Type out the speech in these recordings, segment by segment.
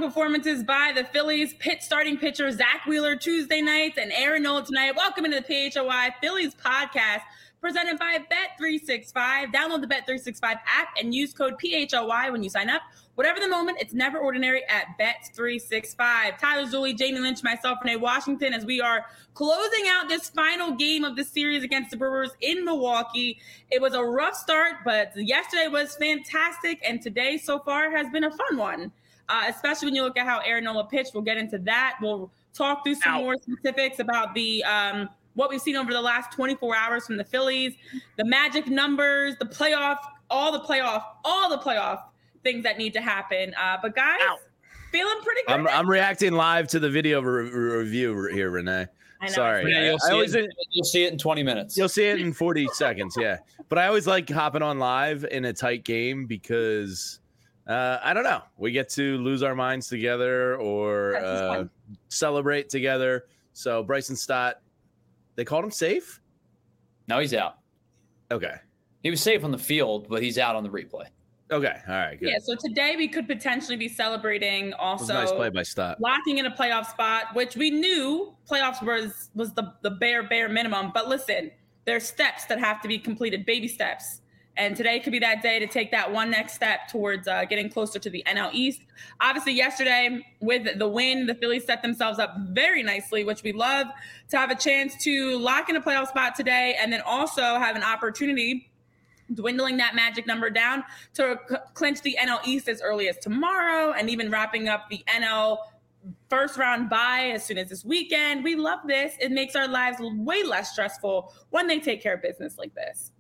performances by the Phillies. Starting pitcher Zach Wheeler Tuesday nights and Aaron Nola tonight. Welcome into the PHOI Phillies podcast presented by Bet365. Download the Bet365 app and use code PHOI when you sign up. Whatever the moment, it's never ordinary at Bet365. Tyler Zulli, Jamie Lynch, myself, Renee Washington, as we are closing out this final game of the series against the Brewers in Milwaukee. It was a rough start, but yesterday was fantastic, and today so far has been a fun one, especially when you look at how Aaron Nola pitched. We'll get into that. We'll talk through some more specifics about the what we've seen over the last 24 hours from the Phillies, the magic numbers, the playoff, all the playoff things that need to happen. But guys, feeling pretty good. I'm reacting live to the video review here, Renee. I know. Sorry. Yeah, you'll see it in 20 minutes. You'll see it in 40 seconds, yeah. But I always like hopping on live in a tight game because, I don't know, we get to lose our minds together or celebrate together. So Bryson Stott, they called him safe? No, he's out. Okay. He was safe on the field, but he's out on the replay. Okay. All right. Good. Yeah. So today we could potentially be celebrating also nice play by Stott. Locking in a playoff spot, which we knew playoffs was the bare minimum. But listen, there's steps that have to be completed, baby steps. And today could be that day to take that one next step towards getting closer to the NL East. Obviously, yesterday with the win, the Phillies set themselves up very nicely, which we love, to have a chance to lock in a playoff spot today and then also have an opportunity dwindling that magic number down to clinch the NL East as early as tomorrow and even wrapping up the NL first round bye as soon as this weekend. We love this. It makes our lives way less stressful when they take care of business like this.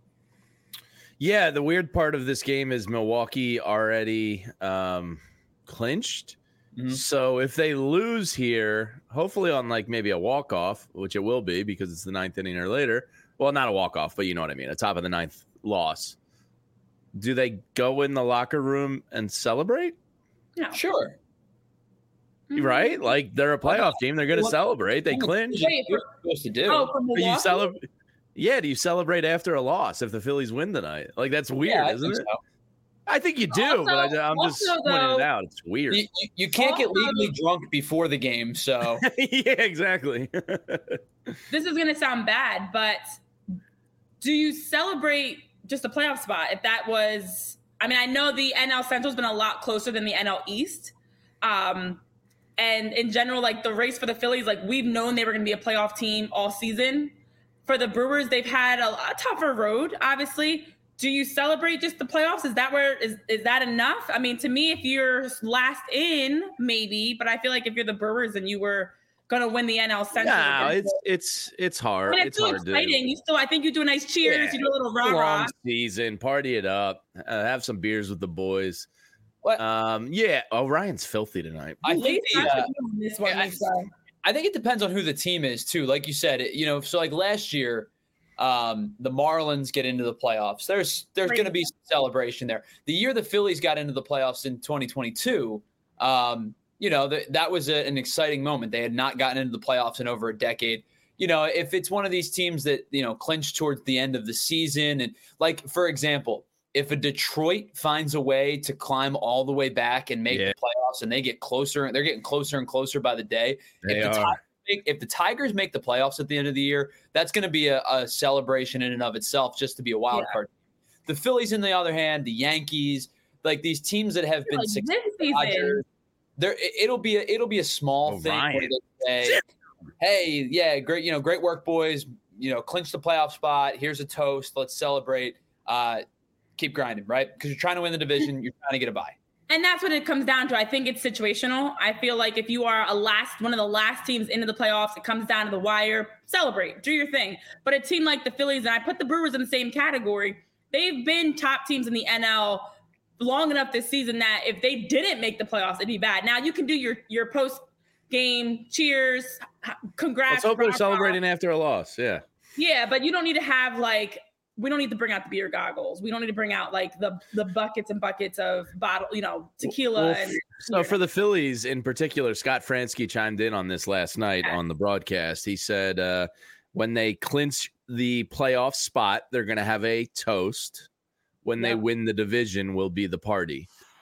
Yeah, the weird part of this game is Milwaukee already clinched. Mm-hmm. So if they lose here, hopefully on like maybe a walk-off, which it will be because it's the ninth inning or later. Well, not a walk-off, but you know what I mean. A top of the ninth loss. Do they go in the locker room and celebrate? No. Sure. Right? Like they're a playoff team. They're going to celebrate. They clinch. What you're supposed to do. From Milwaukee? You celebrate. Yeah, do you celebrate after a loss if the Phillies win tonight? Like, that's weird, isn't it? So. I think you do, but I'm just pointing it out. It's weird. You can't get legally drunk before the game, so. Yeah, exactly. This is going to sound bad, but do you celebrate just a playoff spot? If that was, I mean, I know the NL Central's been a lot closer than the NL East. And in general, like the race for the Phillies, like we've known they were going to be a playoff team all season. For the Brewers, they've had a tougher road, obviously. Do you celebrate just the playoffs? Is that enough? I mean, to me, if you're last in, maybe, but I feel like if you're the Brewers and you were going to win the NL Central. No, it's hard. But it's still hard exciting. I think you do a nice cheers. You do a little rah-rah. Long season, party it up, have some beers with the boys. What? Yeah. Oh, Ryan's filthy tonight. I think I think it depends on who the team is too. Like you said, so like last year, the Marlins get into the playoffs. There's going to be some celebration there. The year the Phillies got into the playoffs in 2022, that was an exciting moment. They had not gotten into the playoffs in over a decade. If it's one of these teams that, clinch towards the end of the season, and like, for example, if a Detroit finds a way to climb all the way back and make the playoffs and they get closer, they're getting closer and closer by the day. If the Tigers make the playoffs at the end of the year, that's going to be a celebration in and of itself just to be a wild card. The Phillies, on the other hand, the Yankees, like these teams that have been successful, it'll be a small thing where they say, hey, yeah, great work, boys. Clinch the playoff spot. Here's a toast. Let's celebrate. Keep grinding, right? Because you're trying to win the division. You're trying to get a bye. And that's what it comes down to. I think it's situational. I feel like if you are one of the last teams into the playoffs, it comes down to the wire, celebrate, do your thing. But a team like the Phillies, and I put the Brewers in the same category, they've been top teams in the NL long enough this season that if they didn't make the playoffs, it'd be bad. Now you can do your post-game cheers, congrats. Let's hope they're celebrating after a loss, yeah. Yeah, but you don't need to have we don't need to bring out the beer goggles. We don't need to bring out the buckets and buckets of tequila. So for the Phillies in particular, Scott Fransky chimed in on this last night on the broadcast. He said when they clinch the playoff spot, they're going to have a toast. When they win the division, will be the party.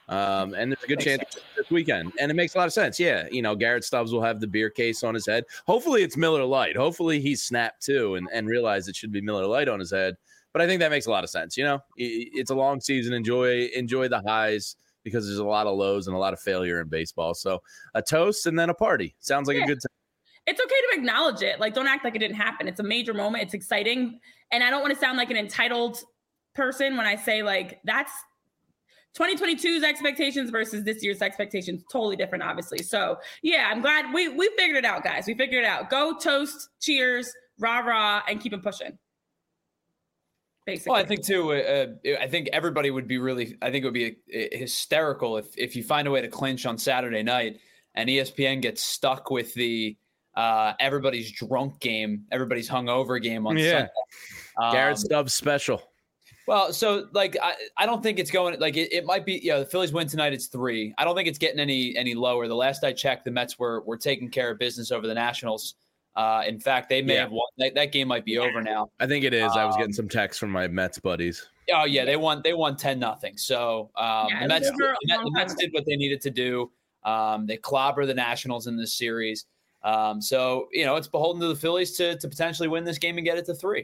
And there's a good chance this weekend. And it makes a lot of sense. Yeah. Garrett Stubbs will have the beer case on his head. Hopefully it's Miller Lite. Hopefully he's snapped too and realized it should be Miller Lite on his head. But I think that makes a lot of sense. It's a long season. Enjoy the highs because there's a lot of lows and a lot of failure in baseball. So a toast and then a party. Sounds like a good time. It's okay to acknowledge it. Like, don't act like it didn't happen. It's a major moment. It's exciting. And I don't want to sound like an entitled person when I say, like, that's 2022's expectations versus this year's expectations. Totally different, obviously. So, yeah, I'm glad we figured it out, guys. We figured it out. Go, toast, cheers, rah-rah, and keep it pushing. Basically. Well, I think, too, I think everybody would be I think it would be hysterical if you find a way to clinch on Saturday night and ESPN gets stuck with the everybody's drunk game, everybody's hungover game on Sunday. Garrett Stubbs special. Well, so like I don't think it's going like it might be. The Phillies win tonight. It's 3. I don't think it's getting any lower. The last I checked, the Mets were taking care of business over the Nationals. In fact, they may have won. That game might be over now. I think it is. I was getting some texts from my Mets buddies. Oh yeah, they won 10-0. So the Mets did what they needed to do. They clobber the Nationals in this series. So it's beholden to the Phillies to potentially win this game and get it to 3.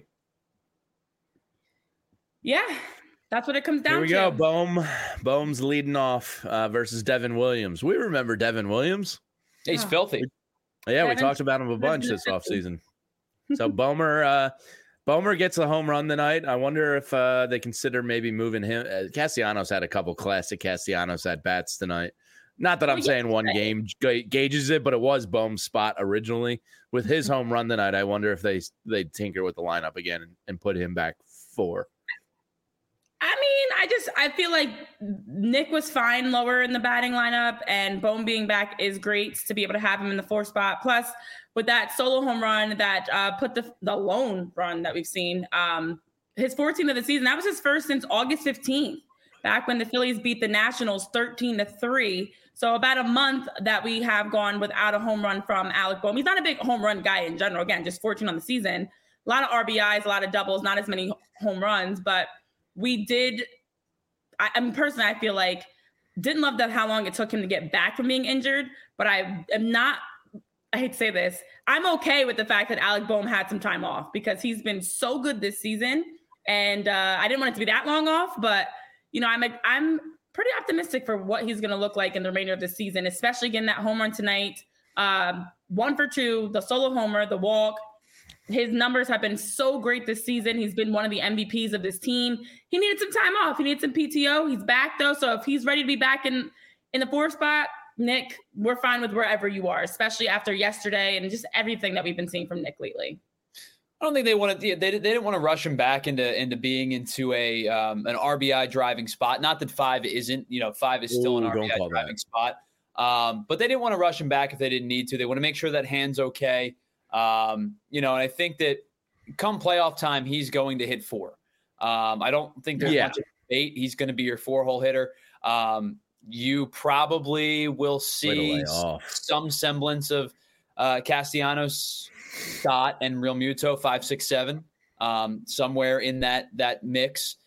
Yeah, that's what it comes down to. Here we go. Bohm's leading off versus Devin Williams. We remember Devin Williams. He's filthy. Yeah, we talked about him a bunch this offseason. So Bomer gets a home run tonight. I wonder if they consider maybe moving him. Castellanos had a couple classic Castellanos at bats tonight. Not that I'm saying one game gauges it, but it was Bohm's spot originally. With his home run tonight, I wonder if they tinker with the lineup again and put him back 4. I mean, I feel like Nick was fine lower in the batting lineup, and Bohm being back is great to be able to have him in the 4 spot. Plus, with that solo home run that put the lone run that we've seen, his 14th of the season, that was his first since August 15th, back when the Phillies beat the Nationals 13-3. So about a month that we have gone without a home run from Alec Bohm. He's not a big home run guy in general. Again, just 14 on the season. A lot of RBIs, a lot of doubles, not as many home runs, but we did. I mean, personally, I feel like didn't love that how long it took him to get back from being injured, but I am not. I hate to say this. I'm okay with the fact that Alec Bohm had some time off because he's been so good this season, and I didn't want it to be that long off. But I'm pretty optimistic for what he's going to look like in the remainder of the season, especially getting that home run tonight. 1 for 2, the solo homer, the walk. His numbers have been so great this season. He's been one of the MVPs of this team. He needed some time off. He needed some PTO. He's back, though. So if he's ready to be back in the 4 spot, Nick, we're fine with wherever you are, especially after yesterday and just everything that we've been seeing from Nick lately. I don't think they wanted. They didn't want to rush him back into being into an RBI driving spot. Not that 5 isn't. 5 is still an RBI driving spot. But they didn't want to rush him back if they didn't need to. They want to make sure that hand's okay. And I think that come playoff time, he's going to hit 4. I don't think there's much of a debate. He's going to be your 4-hole hitter. You probably will see some semblance of Castellanos, Scott, and Real Muto 5, 6, 7, somewhere in that mix.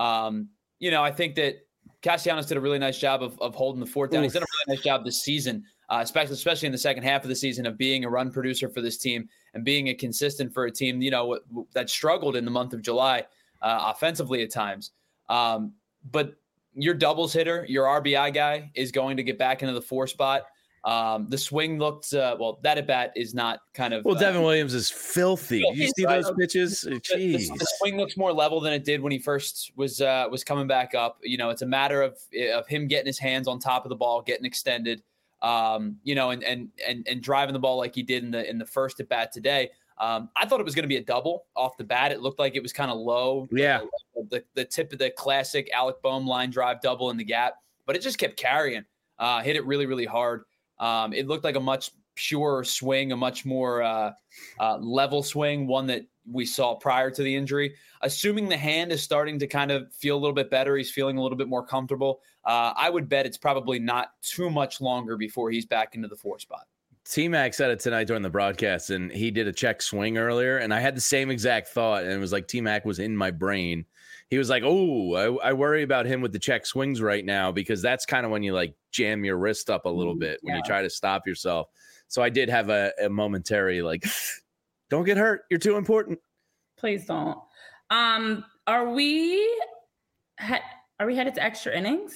I think that Castellanos did a really nice job of holding the fort down. He's done a really nice job this season. Especially in the second half of the season, of being a run producer for this team and being a consistent for a team, that struggled in the month of July offensively at times. But your doubles hitter, your RBI guy is going to get back into the 4 spot. The swing looked that at bat is not kind of. Devin Williams is filthy. You see those pitches? Jeez. The swing looks more level than it did when he first was coming back up. It's a matter of him getting his hands on top of the ball, getting extended. And driving the ball like he did in the first at bat today. I thought it was going to be a double off the bat. It looked like it was kind of low. Yeah. The tip of the classic Alec Bohm line drive double in the gap, but it just kept carrying, hit it really, really hard. It looked like a much purer swing, a much more level swing, one that we saw prior to the injury. Assuming the hand is starting to kind of feel a little bit better, he's feeling a little bit more comfortable. I would bet it's probably not too much longer before he's back into the 4 spot. T-Mac said it tonight during the broadcast, and he did a check swing earlier, and I had the same exact thought, and it was like T-Mac was in my brain. he was like, "Oh, I worry about him with the check swings right now because that's kind of when you like jam your wrist up a little bit when you try to stop yourself." So I did have a momentary like, "Don't get hurt. You're too important." Please don't. Are we headed to extra innings?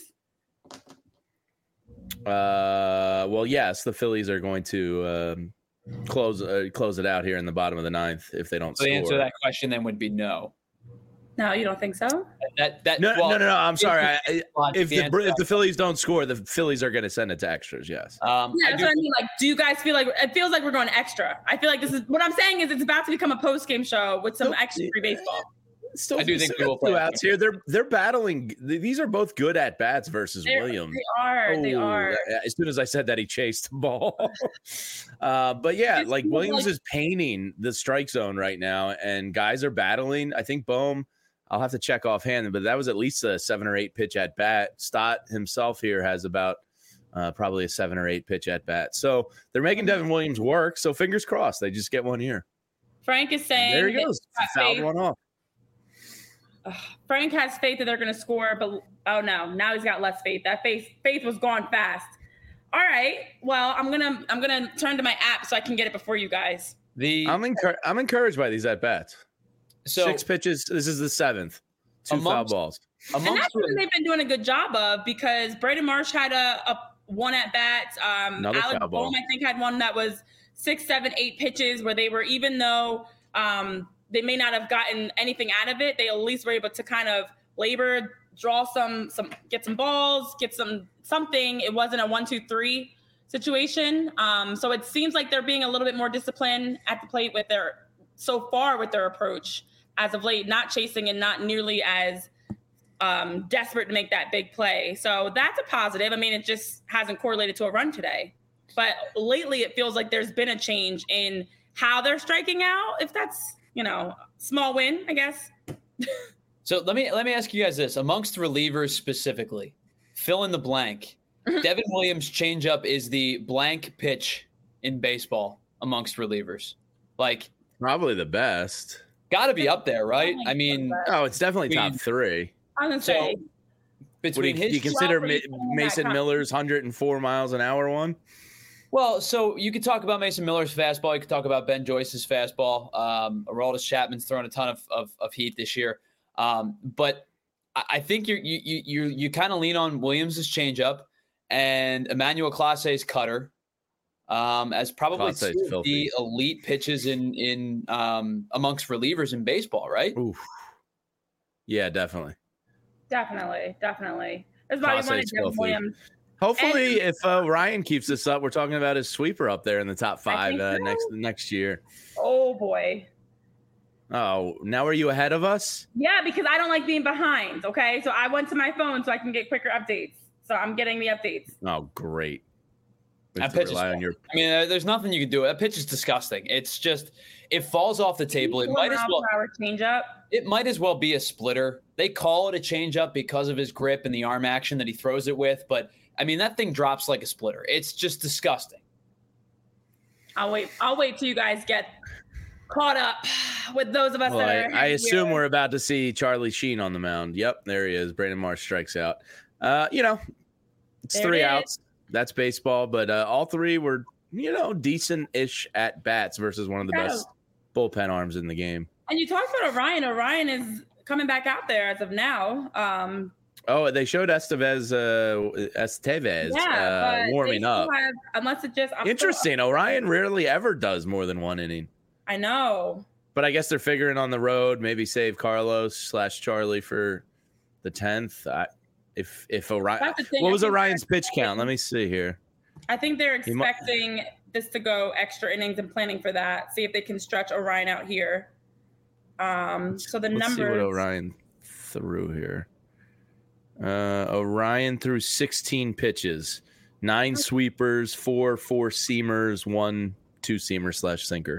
Well, yes, the Phillies are going to close it out here in the bottom of the ninth if they don't. So score. the answer to that question then would be no. No, you don't think so? No. I'm sorry. If the Phillies don't score, the Phillies are going to send it to extras. Yes. Yeah, that's what I mean. Like, do you guys feel like it feels like we're going extra? I feel like this is what I'm saying is it's about to become a post game show with some extra free baseball. I do think we will play outs here. They're battling. These are both good at bats versus Williams. They are. As soon as I said that, he chased the ball. But yeah, like Williams is painting the strike zone right now, and guys are battling. I think Bohm. I'll have to check offhand, but that was at least a 7 or 8 pitch at bat. Stott himself here has about probably a 7 or 8 pitch at bat. So they're making Devin Williams work. So fingers crossed, they just get one here. Frank is saying there he goes. Fouled one off. Frank has faith that they're going to score, but oh no, now he's got less faith. That faith was gone fast. All right, well, I'm gonna turn to my app so I can get it before you guys. I'm encouraged by these at bats. So 6 pitches. This is the 7th. 2 foul balls. And that's what they've been doing a good job of because Braden Marsh had a one at bat. Another Alex foul ball. Bohm, I think, had one that was 6, 7, 8 pitches where they were, even though they may not have gotten anything out of it, they at least were able to kind of labor, draw some get some balls, get something. It wasn't a 1, 2, 3 situation. So it seems like they're being a little bit more disciplined at the plate with their approach as of late, not chasing and not nearly as desperate to make that big play. So that's a positive. I mean, it just hasn't correlated to a run today. But lately it feels like there's been a change in how they're striking out. If that's, small win, I guess. So let me ask you guys this. Amongst relievers specifically, fill in the blank. Devin Williams' changeup is the blank pitch in baseball amongst relievers. Like, probably the best. Got to be up there, right? I mean, it's definitely top 3. I was gonna say, between do you consider Mason Miller's 104 miles an hour one? Well, so you could talk about Mason Miller's fastball. You could talk about Ben Joyce's fastball. Aroldis Chapman's thrown a ton of heat this year. But I think you kind of lean on Williams' changeup and Emmanuel Clase's cutter as probably two of the elite pitches in amongst relievers in baseball, right? Oof. Yeah, definitely. Definitely. That's why you wanted Devin Williams. Hopefully, if Ryan keeps this up, we're talking about his sweeper up there in the top 5 next year. Oh boy. Oh, now are you ahead of us? Yeah, because I don't like being behind. Okay, so I went to my phone so I can get quicker updates. So I'm getting the updates. Oh, great. That pitch there's nothing you can do. That pitch is disgusting. It's just it falls off the table. It might as well changeup. It might as well be a splitter. They call it a changeup because of his grip and the arm action that he throws it with, but I mean that thing drops like a splitter. It's just disgusting. I'll wait till you guys get caught up with those of us that are. I assume we're about to see Charlie Sheen on the mound. Yep, there he is. Braden Marsh strikes out. It's 3 outs. That's baseball, but all 3 were, decent-ish at bats versus one of the best bullpen arms in the game. And you talked about Orion. Orion is coming back out there as of now. They showed Estevez warming up. Unless it just interesting. Orion rarely ever does more than 1 inning. I know. But I guess they're figuring on the road, maybe save Carlos / Charlie for the 10th. If Orion, what was Orion's pitch count? Let me see here. I think they're expecting this to go extra innings and planning for that. See if they can stretch Orion out here. So the numbers. See what Orion threw here. Orion threw 16 pitches, 9 sweepers, 4 seamers, 1 2-seamer / sinker.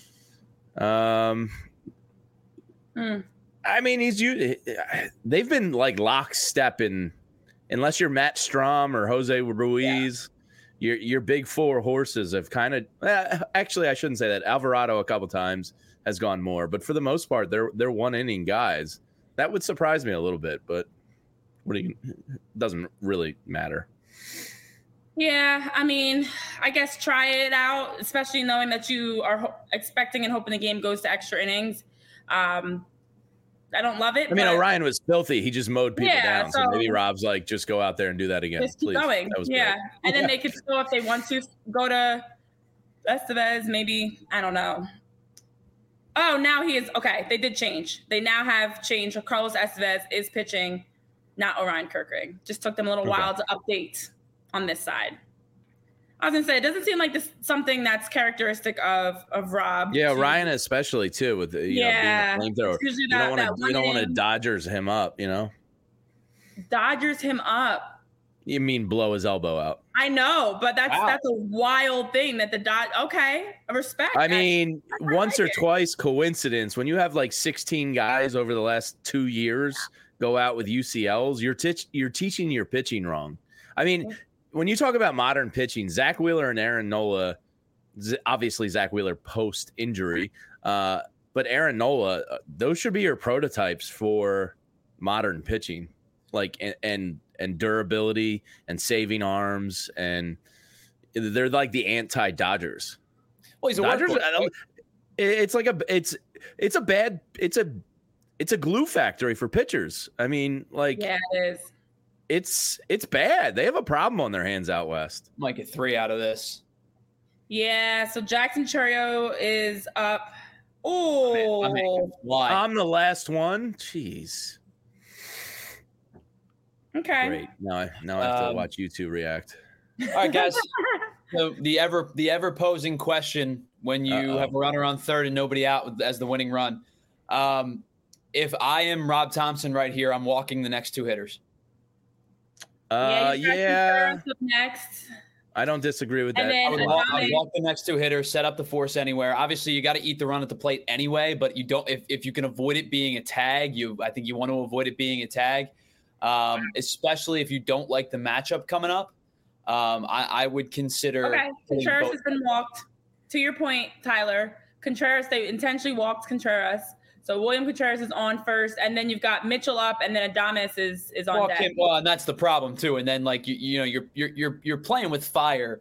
I mean, they've been like lockstep in, unless you're Matt Strahm or Jose Ruiz, your big 4 horses have kind of, actually, I shouldn't say that. Alvarado a couple times has gone more, but for the most part, they're 1 inning guys. That would surprise me a little bit, but doesn't really matter. Yeah, I mean, I guess try it out, especially knowing that you are expecting and hoping the game goes to extra innings. I don't love it. I mean, Orion was filthy. He just mowed people down. So maybe Rob's like, just go out there and do that again. Just keep going. That was great. And then they could still, if they want to, go to Estevez, maybe. I don't know. Oh, now he is. Okay, they did change. They now have changed. Carlos Estevez is pitching, not Orion Kerkering. Just took them a little while to update on this side. I was gonna say, it doesn't seem like this something that's characteristic of Rob. Yeah, Ryan especially too with the, being a flamethrower. You don't want to Dodgers him up, Dodgers him up. You mean blow his elbow out? I know, but that's a wild thing that okay, respect. I mean, once or twice coincidence. When you have like 16 guys over the last 2 years go out with UCLs, you're teaching your pitching wrong. I mean, when you talk about modern pitching, Zach Wheeler and Aaron Nola, obviously Zach Wheeler post-injury, but Aaron Nola, those should be your prototypes for modern pitching, like and durability and saving arms, and they're like the anti-Dodgers. Well, he's a Dodgers. It's like it's a glue factory for pitchers. I mean, like it is. It's bad. They have a problem on their hands out west. Might get 3 out of this. Yeah, so Jackson Chourio is up. Oh, I'm the last one. Jeez. Okay. Great. Now I have to watch you two react. All right, guys. So the ever posing question when you have a runner on third and nobody out as the winning run. If I am Rob Thompson right here, I'm walking the next 2 hitters. Next. I don't disagree with that. I would walk the next 2 hitters, set up the force anywhere. Obviously, you got to eat the run at the plate anyway, but you don't. If you can avoid it being a tag, I think you want to avoid it being a tag, especially if you don't like the matchup coming up. I would consider. Okay, Contreras has been walked. To your point, Tyler, Contreras, they intentionally walked Contreras. So William Contreras is on first, and then you've got Mitchell up, and then Adames is on deck. Well, and that's the problem too. And then like you're playing with fire,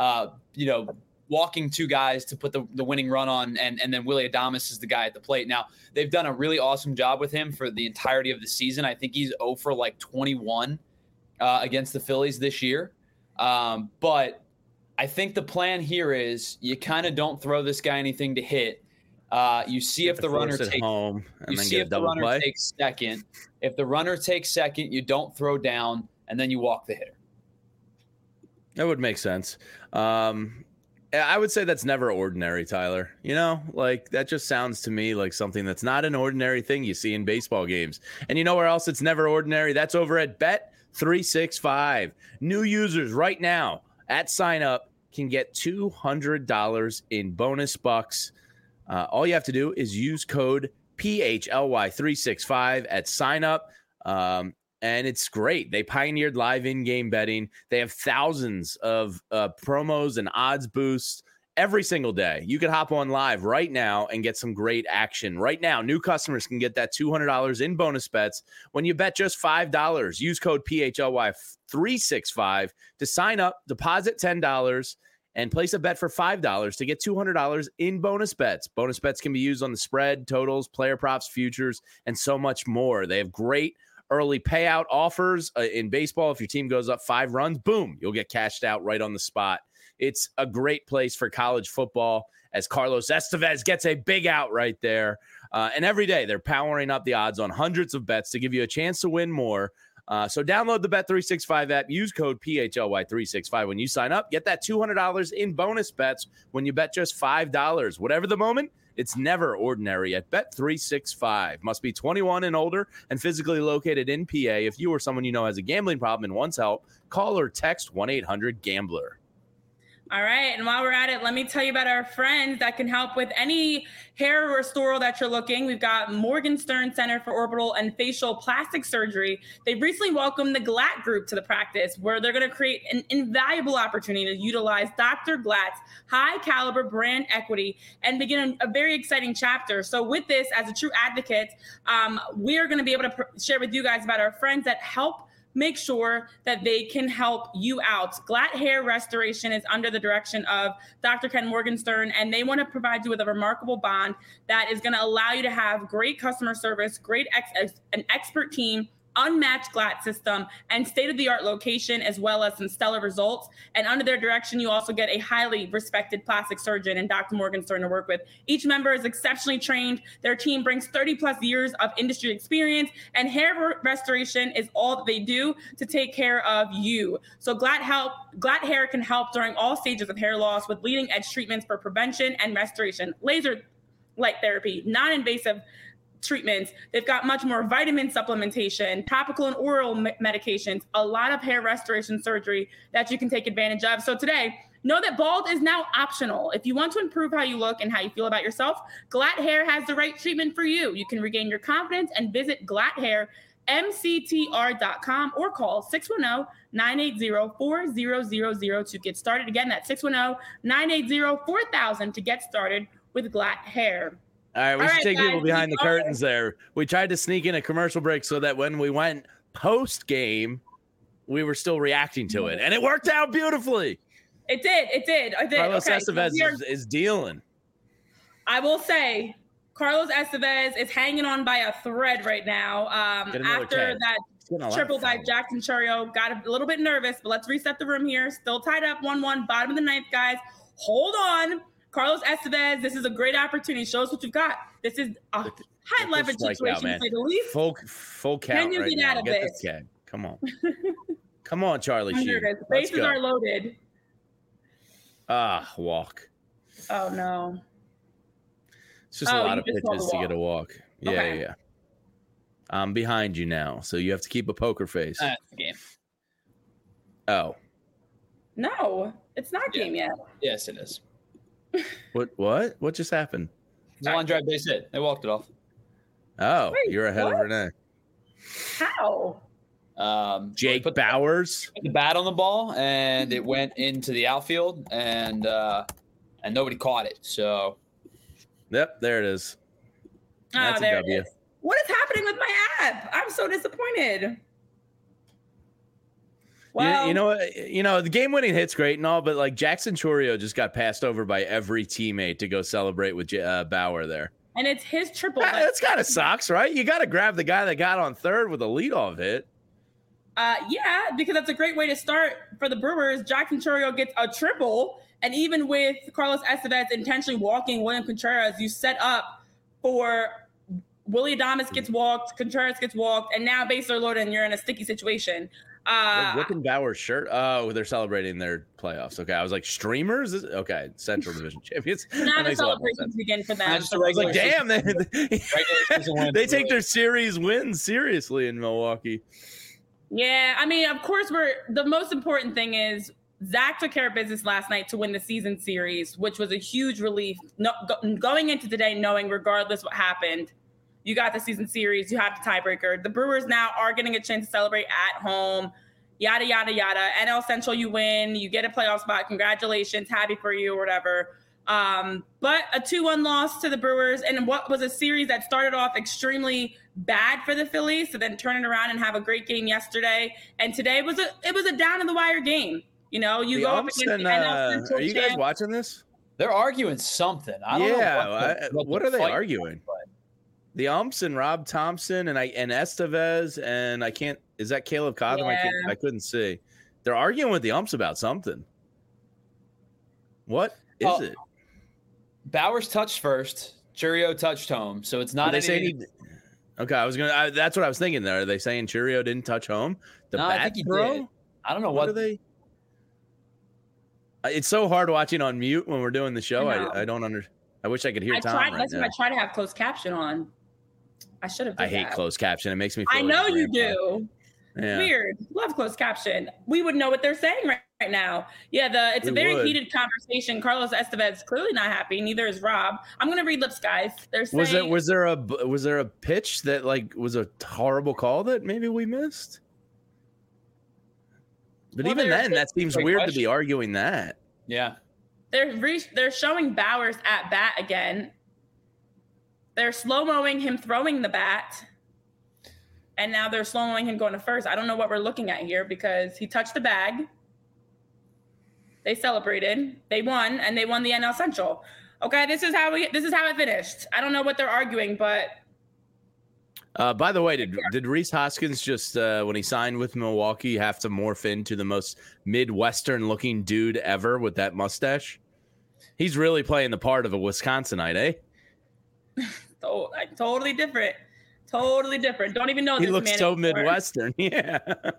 walking 2 guys to put the winning run on, and then Willie Adames is the guy at the plate. Now they've done a really awesome job with him for the entirety of the season. I think he's 0 for like 21 against the Phillies this year. But I think the plan here is you kind of don't throw this guy anything to hit. You see if the runner takes home, and then get a double play. Takes second. If the runner takes second, you don't throw down, and then you walk the hitter. That would make sense. I would say that's never ordinary, Tyler. Like that just sounds to me like something that's not an ordinary thing you see in baseball games. And you know where else it's never ordinary? That's over at Bet365. New users right now at sign up can get $200 in bonus bucks. All you have to do is use code PHLY365 at sign up. And it's great. They pioneered live in-game betting. They have thousands of promos and odds boosts every single day. You can hop on live right now and get some great action. Right now, new customers can get that $200 in bonus bets when you bet just $5. Use code PHLY365 to sign up, deposit $10, and place a bet for $5 to get $200 in bonus bets. Bonus bets can be used on the spread, totals, player props, futures, and so much more. They have great early payout offers in baseball. If your team goes up 5 runs, boom, you'll get cashed out right on the spot. It's a great place for college football as Carlos Estevez gets a big out right there. And every day they're powering up the odds on hundreds of bets to give you a chance to win more. So download the Bet365 app. Use code PHLY365 when you sign up. Get that $200 in bonus bets when you bet just $5. Whatever the moment, it's never ordinary at Bet365. Must be 21 and older and physically located in PA. If you or someone you know has a gambling problem and wants help, call or text 1-800-GAMBLER. All right. And while we're at it, let me tell you about our friends that can help with any hair restoral that you're looking. We've got Morgenstern Center for Orbital and Facial Plastic Surgery. They've recently welcomed the Glatt Group to the practice, where they're going to create an invaluable opportunity to utilize Dr. Glatt's high caliber brand equity and begin a very exciting chapter. So with this, as a true advocate, we are going to be able to share with you guys about our friends that help make sure that they can help you out. Glatt Hair Restoration is under the direction of Dr. Ken Morgenstern, and they want to provide you with a remarkable bond that is going to allow you to have great customer service, an expert team, unmatched Glatt system, and state-of-the-art location, as well as some stellar results. And under their direction, you also get a highly respected plastic surgeon and Dr. Morgenstern to work with. Each member is exceptionally trained. Their team brings 30 plus years of industry experience, and hair restoration is all that they do to take care of you. So Glatt Hair can help during all stages of hair loss with leading edge treatments for prevention and restoration, laser light therapy, non-invasive treatments. They've got much more vitamin supplementation, topical and oral medications, a lot of hair restoration surgery that you can take advantage of. So today, know that bald is now optional. If you want to improve how you look and how you feel about yourself, Glatt Hair has the right treatment for you. You can regain your confidence and visit glatthairmctr.com or call 610-980-4000 to get started. Again, that's 610-980-4000 to get started with Glatt Hair. All right, we should take people behind the curtains there. We tried to sneak in a commercial break so that when we went post-game, we were still reacting to it. And it worked out beautifully. It did. Carlos Estevez is dealing. I will say, Carlos Estevez is hanging on by a thread right now. After that triple by Jackson Chourio, got a little bit nervous, but let's reset the room here. Still tied up 1-1, bottom of the ninth, guys. Hold on. Carlos Estevez, this is a great opportunity. Show us what you've got. This is a high leverage situation, to say the least. Full count. Can you get out of this? Come on. Come on, Charlie Sheen. Bases are loaded. Walk. Oh, no. It's just a lot of pitches to get a walk. Yeah. I'm behind you now, so you have to keep a poker face. That's the game. Oh. No, it's not game yet. Yes, it is. What just happened? One drive base hit. They walked it off. Oh, wait, you're ahead of Renee. How? Jake Bauers put the bat on the ball, and it went into the outfield, and nobody caught it. So, yep, there it is. That's there a W. it is. What is happening with my app? I'm so disappointed. Well, you know, the game-winning hit's great and all, but like Jackson Chourio just got passed over by every teammate to go celebrate with Bauer there. And it's his triple. That's kind of sucks, right? You got to grab the guy that got on third with a leadoff hit. Yeah, because that's a great way to start for the Brewers. Jackson Chourio gets a triple, and even with Carlos Estevez intentionally walking William Contreras, you set up for Willy Adames gets walked, Contreras gets walked, and now bases are loaded, and you're in a sticky situation. Ripping Bauer's shirt. Oh, they're celebrating their playoffs. Okay, I was like, streamers. Okay, Central Division champions. Now the celebrations begin for them. I was like, damn, they take their series wins seriously in Milwaukee. Yeah, I mean, of course, the most important thing is Zach took care of business last night to win the season series, which was a huge relief. Going into today, knowing regardless what happened, you got the season series, you have the tiebreaker. The Brewers now are getting a chance to celebrate at home, yada, yada, yada. NL Central, you win, you get a playoff spot. Congratulations, happy for you or whatever. But a 2-1 loss to the Brewers in what was a series that started off extremely bad for the Phillies, to then turn it around and have a great game yesterday. And today it was a down in the wire game. You know, you go up against the NL Central. Are you guys watching this? They're arguing something. I don't know. What are they arguing? The umps and Rob Thompson and Estevez and is that Caleb Cotham? Yeah. I couldn't see. They're arguing with the umps about something. What is it? Bauers touched first. Chourio touched home, so it's not. Okay, that's what I was thinking. There, are they saying Chourio didn't touch home? I think he did. I don't know what are they. It's so hard watching on mute when we're doing the show. I don't understand. I wish I could hear Tom right now. That's why I try to have closed caption on. I should have. I hate closed caption. It makes me feel. I know you do. Yeah. Weird. Love closed caption. We would know what they're saying right right now. Yeah, it's a very heated conversation. Carlos Estevez clearly not happy. Neither is Rob. I'm gonna read lips, guys. They're saying, was there a pitch that like was a horrible call that maybe we missed? But even then, that seems weird to be arguing that. Yeah, they're showing Bauers at bat again. They're slow-moing him throwing the bat. And now they're slow-moing him going to first. I don't know what we're looking at here because he touched the bag. They celebrated. They won, and they won the NL Central. Okay, this is how it finished. I don't know what they're arguing, but by the way, did Rhys Hoskins just when he signed with Milwaukee have to morph into the most Midwestern looking dude ever with that mustache? He's really playing the part of a Wisconsinite, eh? Totally different. Totally different. Don't even know this man. He looks so Midwestern. Yeah.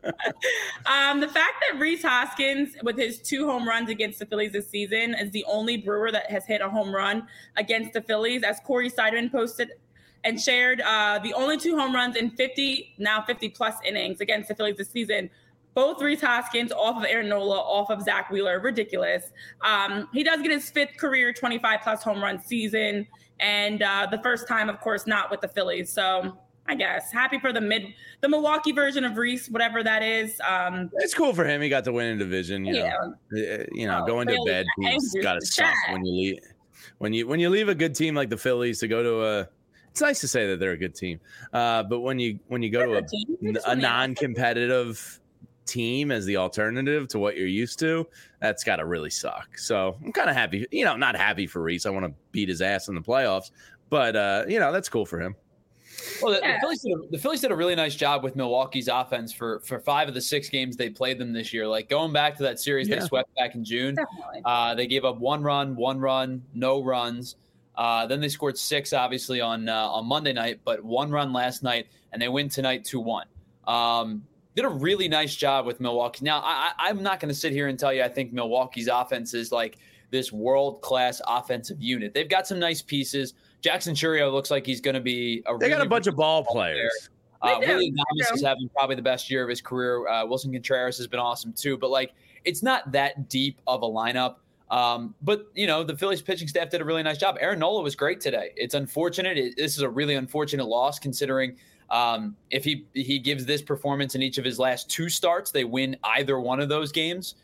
The fact that Rhys Hoskins, with his 2 home runs against the Phillies this season, is the only Brewer that has hit a home run against the Phillies, as Corey Seidman posted and shared, the only 2 home runs in 50 plus innings against the Phillies this season. Both Rhys Hoskins off of Aaron Nola, off of Zach Wheeler. Ridiculous. He does get his 5th career 25 plus home run season. And the first time, of course, not with the Phillies. So I guess happy for the Milwaukee version of Rhys, whatever that is. It's cool for him. He got to win a division. You know, going to bed, he's got to suck when you leave. When you leave a good team like the Phillies to go to a. It's nice to say that they're a good team, but when you go to a non-competitive team as the alternative to what you're used to, that's got to really suck. So I'm kind of happy, not happy for Rhys. I want to beat his ass in the playoffs, but that's cool for him. Well, the Phillies did a really nice job with Milwaukee's offense for 5 of the 6 games they played them this year. Like going back to that series they swept back in June, they gave up 1 run, no runs. Then they scored 6, obviously, on Monday night, but 1 run last night, and they win tonight 2-1. Did a really nice job with Milwaukee. Now, I'm not going to sit here and tell you I think Milwaukee's offense is like this world-class offensive unit. They've got some nice pieces. Jackson Chourio looks like he's going to be They got a bunch of ball players. Willie Adames is having probably the best year of his career. Wilson Contreras has been awesome too. But, it's not that deep of a lineup. But, the Phillies pitching staff did a really nice job. Aaron Nola was great today. It's unfortunate. This is a really unfortunate loss considering if he gives this performance in each of his last 2 starts, they win either one of those games.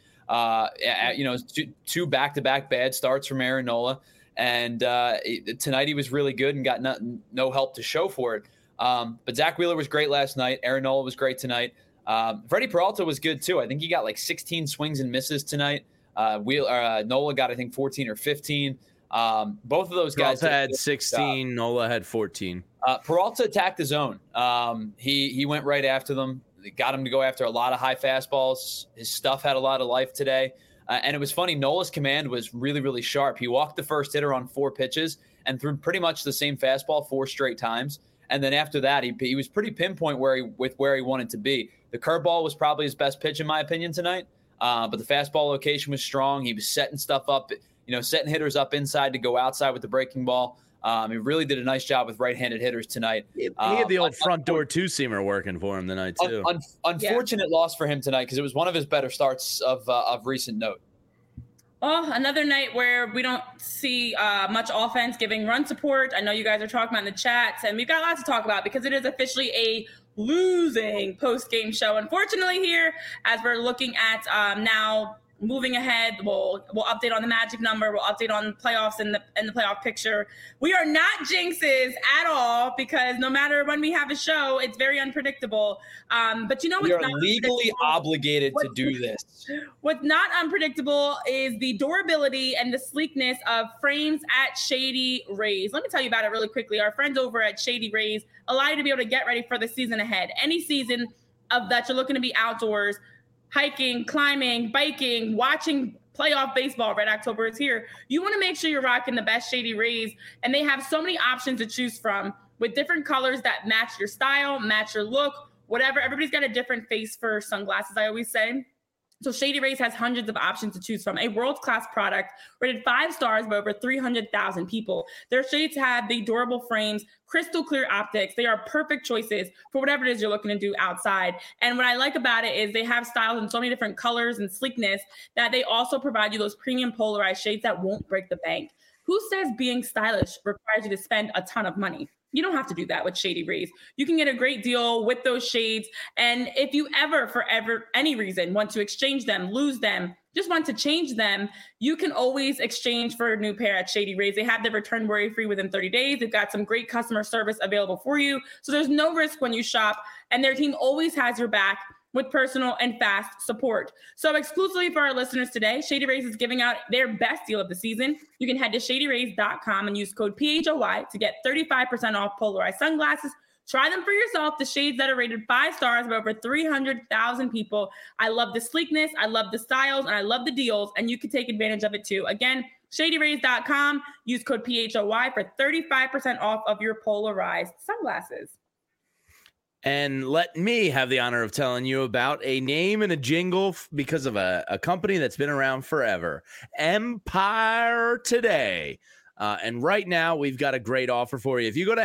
2 back-to-back bad starts from Aaron Nola. And tonight he was really good and got no help to show for it. But Zach Wheeler was great last night. Aaron Nola was great tonight. Freddie Peralta was good too. I think he got 16 swings and misses tonight. Nola got, I think, 14 or 15. Both of those guys had 16. Nola had 14. Peralta attacked the zone. He went right after them. They got him to go after a lot of high fastballs. His stuff had a lot of life today. And it was funny. Nola's command was really, really sharp. He walked the first hitter on 4 pitches and threw pretty much the same fastball 4 straight times. And then after that, he was pretty pinpoint where he wanted to be. The curveball was probably his best pitch, in my opinion, tonight. But the fastball location was strong. He was setting stuff up, setting hitters up inside to go outside with the breaking ball. He really did a nice job with right-handed hitters tonight. He had the old front door 2-seamer working for him tonight too. Unfortunate loss for him tonight because it was one of his better starts of recent note. Well, another night where we don't see much offense giving run support. I know you guys are talking about in the chats, and we've got lots to talk about because it is officially a losing post-game show. Unfortunately here, as we're looking at now moving ahead, we'll update on the magic number. We'll update on playoffs and the playoff picture. We are not jinxes at all because no matter when we have a show, it's very unpredictable. But we are legally obligated to do this. What's not unpredictable is the durability and the sleekness of frames at Shady Rays. Let me tell you about it really quickly. Our friends over at Shady Rays allow you to be able to get ready for the season ahead. Any season of that you're looking to be outdoors, hiking, climbing, biking, watching playoff baseball. Red October is here. You want to make sure you're rocking the best Shady Rays, and they have so many options to choose from with different colors that match your style, match your look, whatever. Everybody's got a different face for sunglasses, I always say. So Shady Rays has hundreds of options to choose from. A world-class product rated 5 stars by over 300,000 people. Their shades have the durable frames, crystal clear optics. They are perfect choices for whatever it is you're looking to do outside. And what I like about it is they have styles in so many different colors and sleekness that they also provide you those premium polarized shades that won't break the bank. Who says being stylish requires you to spend a ton of money? You don't have to do that with Shady Rays. You can get a great deal with those shades. And if you ever, for any reason, want to exchange them, lose them, just want to change them, you can always exchange for a new pair at Shady Rays. They have the return worry-free within 30 days. They've got some great customer service available for you. So there's no risk when you shop. And their team always has your back with personal and fast support. So exclusively for our listeners today, Shady Rays is giving out their best deal of the season. You can head to shadyrays.com and use code PHOY to get 35% off polarized sunglasses. Try them for yourself. The shades that are rated 5 stars by over 300,000 people. I love the sleekness, I love the styles, and I love the deals, and you can take advantage of it too. Again, shadyrays.com, use code PHOY for 35% off of your polarized sunglasses. And let me have the honor of telling you about a name and a jingle because of a company that's been around forever, Empire Today. And right now, we've got a great offer for you. If you go to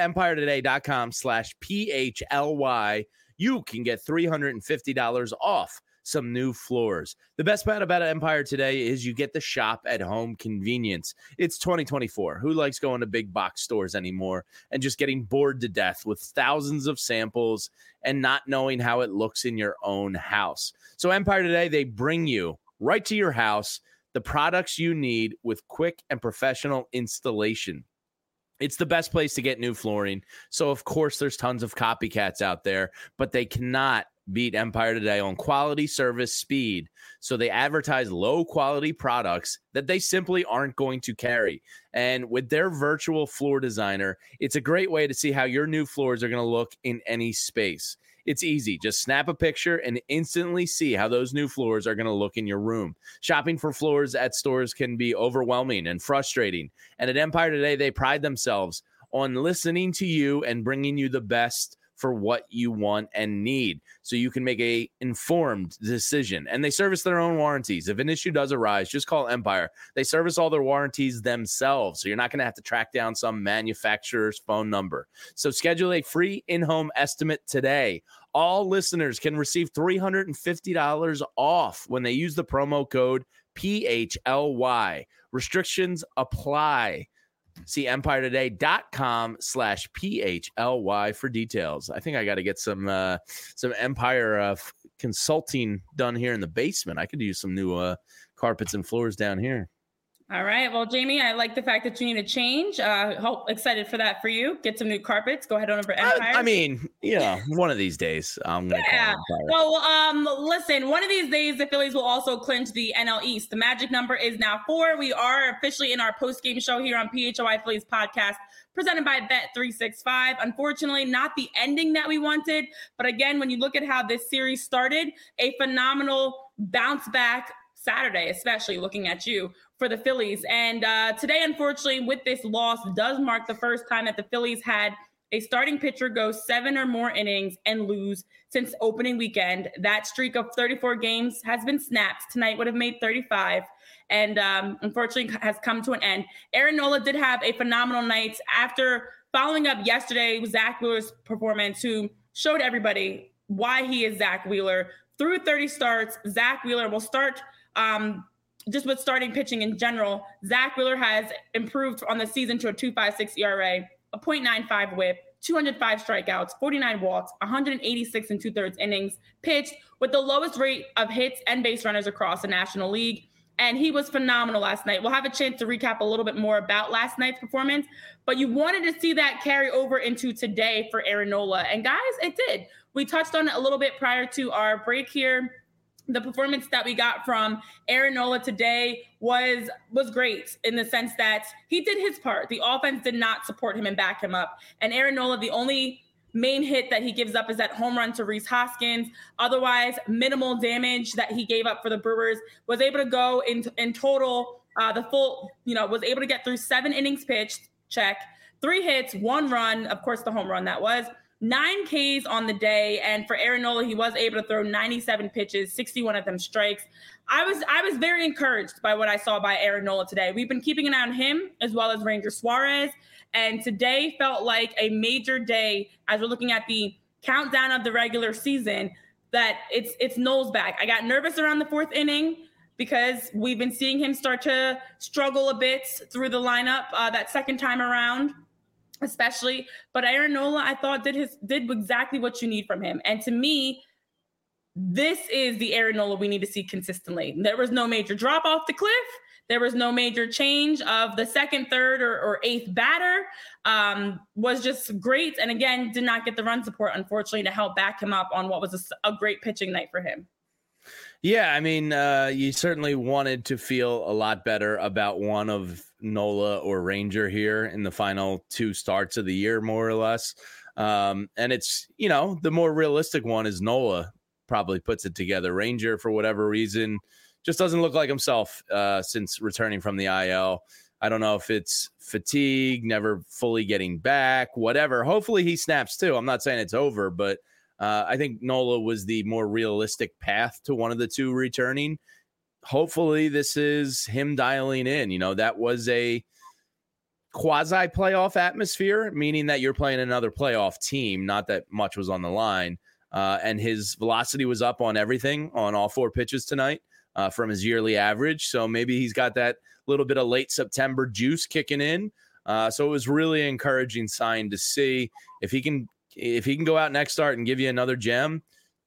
empiretoday.com/PHLY, you can get $350 off some new floors. The best part about Empire Today is you get the shop at home convenience. It's 2024. Who likes going to big box stores anymore and just getting bored to death with thousands of samples and not knowing how it looks in your own house? So Empire Today, they bring you right to your house the products you need with quick and professional installation. It's the best place to get new flooring. So, of course, there's tons of copycats out there, but they cannot beat Empire Today on quality, service, speed. So they advertise low-quality products that they simply aren't going to carry. And with their virtual floor designer, it's a great way to see how your new floors are going to look in any space. It's easy. Just snap a picture and instantly see how those new floors are going to look in your room. Shopping for floors at stores can be overwhelming and frustrating. And at Empire Today, they pride themselves on listening to you and bringing you the best for what you want and need so you can make a informed decision. And they service their own warranties. If an issue does arise, just call Empire. They service all their warranties themselves, so you're not going to have to track down some manufacturer's phone number. So schedule a free in-home estimate today. All listeners can receive $350 off when they use the promo code PHLY. Restrictions apply. See empiretoday.com/PHLY for details. I think I got to get some Empire consulting done here in the basement. I could use some new carpets and floors down here. All right. Well, Jamie, I like the fact that you need a change. Excited for that for you. Get some new carpets. Go ahead on over to Empire. I mean, one of these days I'm going to call Empire. Well, listen, one of these days the Phillies will also clinch the NL East. The magic number is now 4. We are officially in our post-game show here on PHOI Phillies podcast, presented by Bet365. Unfortunately, not the ending that we wanted. But again, when you look at how this series started, a phenomenal bounce back Saturday, especially looking at you for the Phillies. And today, unfortunately, with this loss, does mark the first time that the Phillies had a starting pitcher go 7 or more innings and lose since opening weekend. That streak of 34 games has been snapped. Tonight would have made 35 and unfortunately has come to an end. Aaron Nola did have a phenomenal night after following up yesterday with Zach Wheeler's performance, who showed everybody why he is Zach Wheeler. Through 30 starts, Zach Wheeler will start just with starting pitching in general. Zach Wheeler has improved on the season to a 2.56 ERA, a .95 whip, 205 strikeouts, 49 walks, 186 and 2/3 innings pitched with the lowest rate of hits and base runners across the National League. And he was phenomenal last night. We'll have a chance to recap a little bit more about last night's performance, but you wanted to see that carry over into today for Aaron Nola. And guys, it did. We touched on it a little bit prior to our break here. The performance that we got from Aaron Nola today was great in the sense that he did his part. The offense did not support him and back him up. And Aaron Nola, the only main hit that he gives up is that home run to Rhys Hoskins. Otherwise, minimal damage that he gave up for the Brewers. Was able to go in total, the full, was able to get through 7 innings pitched, check, 3 hits, 1 run, of course, the home run that was, 9 Ks on the day. And for Aaron Nola, he was able to throw 97 pitches, 61 of them strikes. I was very encouraged by what I saw by Aaron Nola today. We've been keeping an eye on him as well as Ranger Suarez. And today felt like a major day as we're looking at the countdown of the regular season, that it's Noel's back. I got nervous around the 4th inning because we've been seeing him start to struggle a bit through the lineup that second time around, especially. But Aaron Nola, I thought, did exactly what you need from him. And to me, this is the Aaron Nola we need to see consistently. There was no major drop off the cliff. There was no major change of the second, third, or 8th batter. Was just great. And again, did not get the run support, unfortunately, to help back him up on what was a great pitching night for him. Yeah, I mean, you certainly wanted to feel a lot better about one of Nola or Ranger here in the final 2 starts of the year, more or less. And it's, the more realistic one is Nola probably puts it together. Ranger, for whatever reason, just doesn't look like himself since returning from the IL. I don't know if it's fatigue, never fully getting back, whatever. Hopefully he snaps too. I'm not saying it's over, but I think Nola was the more realistic path to one of the 2 returning. Hopefully this is him dialing in. That was a quasi-playoff atmosphere, meaning that you're playing another playoff team, not that much was on the line. And his velocity was up on everything, on all 4 pitches tonight. From his yearly average. So maybe he's got that little bit of late September juice kicking in. So it was really an encouraging sign to see. If he can go out next start and give you another gem,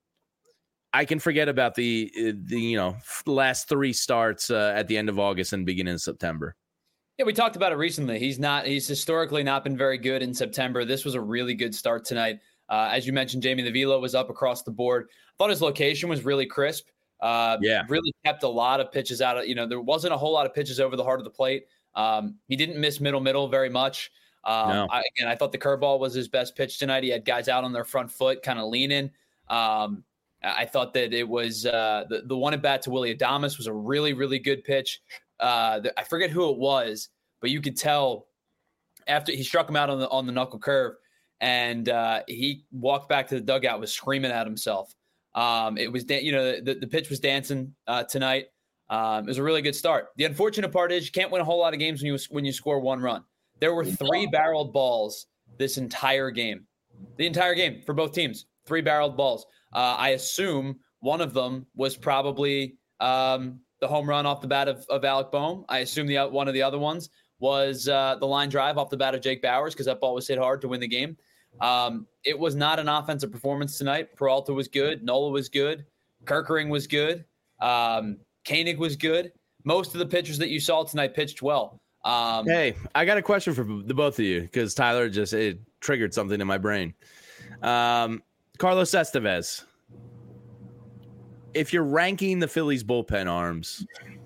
I can forget about the last 3 starts at the end of August and beginning of September. Yeah, we talked about it recently. He's historically not been very good in September. This was a really good start tonight. As you mentioned, Jamie, the velo was up across the board. I thought his location was really crisp. Really kept a lot of pitches out of, there wasn't a whole lot of pitches over the heart of the plate. He didn't miss middle very much. No. I thought the curveball was his best pitch tonight. He had guys out on their front foot, kind of leaning. I thought that it was the one at bat to Willy Adames was a really, really good pitch. I forget who it was, but you could tell after he struck him out on the knuckle curve, and he walked back to the dugout, was screaming at himself. It was, the pitch was dancing tonight. It was a really good start. The unfortunate part is you can't win a whole lot of games when you score 1 run. There were 3 barreled balls this entire game. The entire game for both teams, 3 barreled balls. I assume one of them was probably the home run off the bat of Alec Boehm. I assume one of the other ones was the line drive off the bat of Jake Bauers, because that ball was hit hard to win the game. It was not an offensive performance tonight. Peralta was good. Nola was good. Kerkering was good. Koenig was good. Most of the pitchers that you saw tonight pitched well. Hey, I got a question for the both of you, because Tyler it triggered something in my brain. Carlos Estevez. If you're ranking the Phillies bullpen arms,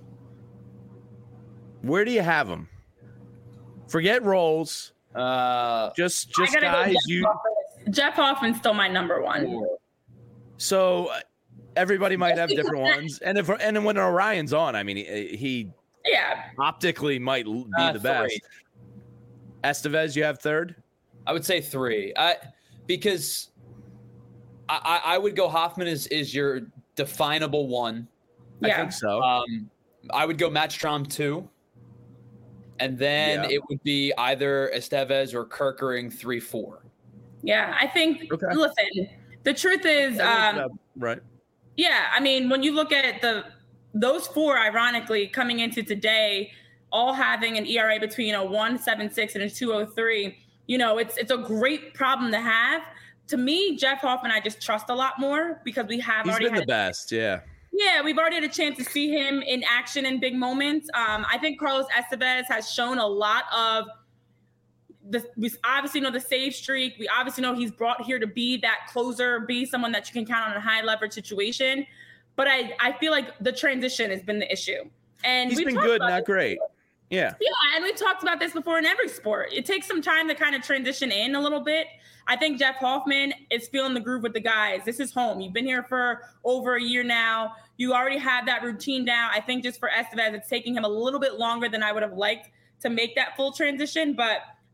where do you have them? Forget roles. Just guys. Jeff Hoffman's still my number 1. So everybody might have different ones, and when Orion's on, I mean, he optically might be the best. 3. Estevez, you have 3rd? I would say 3. Because I would go Hoffman is your definable 1. I think so. I would go Matt Strahm 2. And then it would be either Estevez or Kerkering 3-4. Yeah, I think, listen, the truth is, right. Yeah, I mean, when you look at those 4, ironically, coming into today, all having an ERA between a 1.76 and a 2.03, it's a great problem to have. To me, Jeff Hoffman, I just trust a lot more, because he's been the best, yeah. Yeah, we've already had a chance to see him in action in big moments. I think Carlos Estevez has shown a lot of we obviously know the save streak. We obviously know he's brought here to be that closer, be someone that you can count on in a high leverage situation. But I feel like the transition has been the issue. And he's been good, not great. Yeah. Yeah, and we've talked about this before in every sport. It takes some time to kind of transition in a little bit. I think Jeff Hoffman is feeling the groove with the guys. This is home. You've been here for over a year now. You already have that routine down. I think just for Estevez, it's taking him a little bit longer than I would have liked to make that full transition. But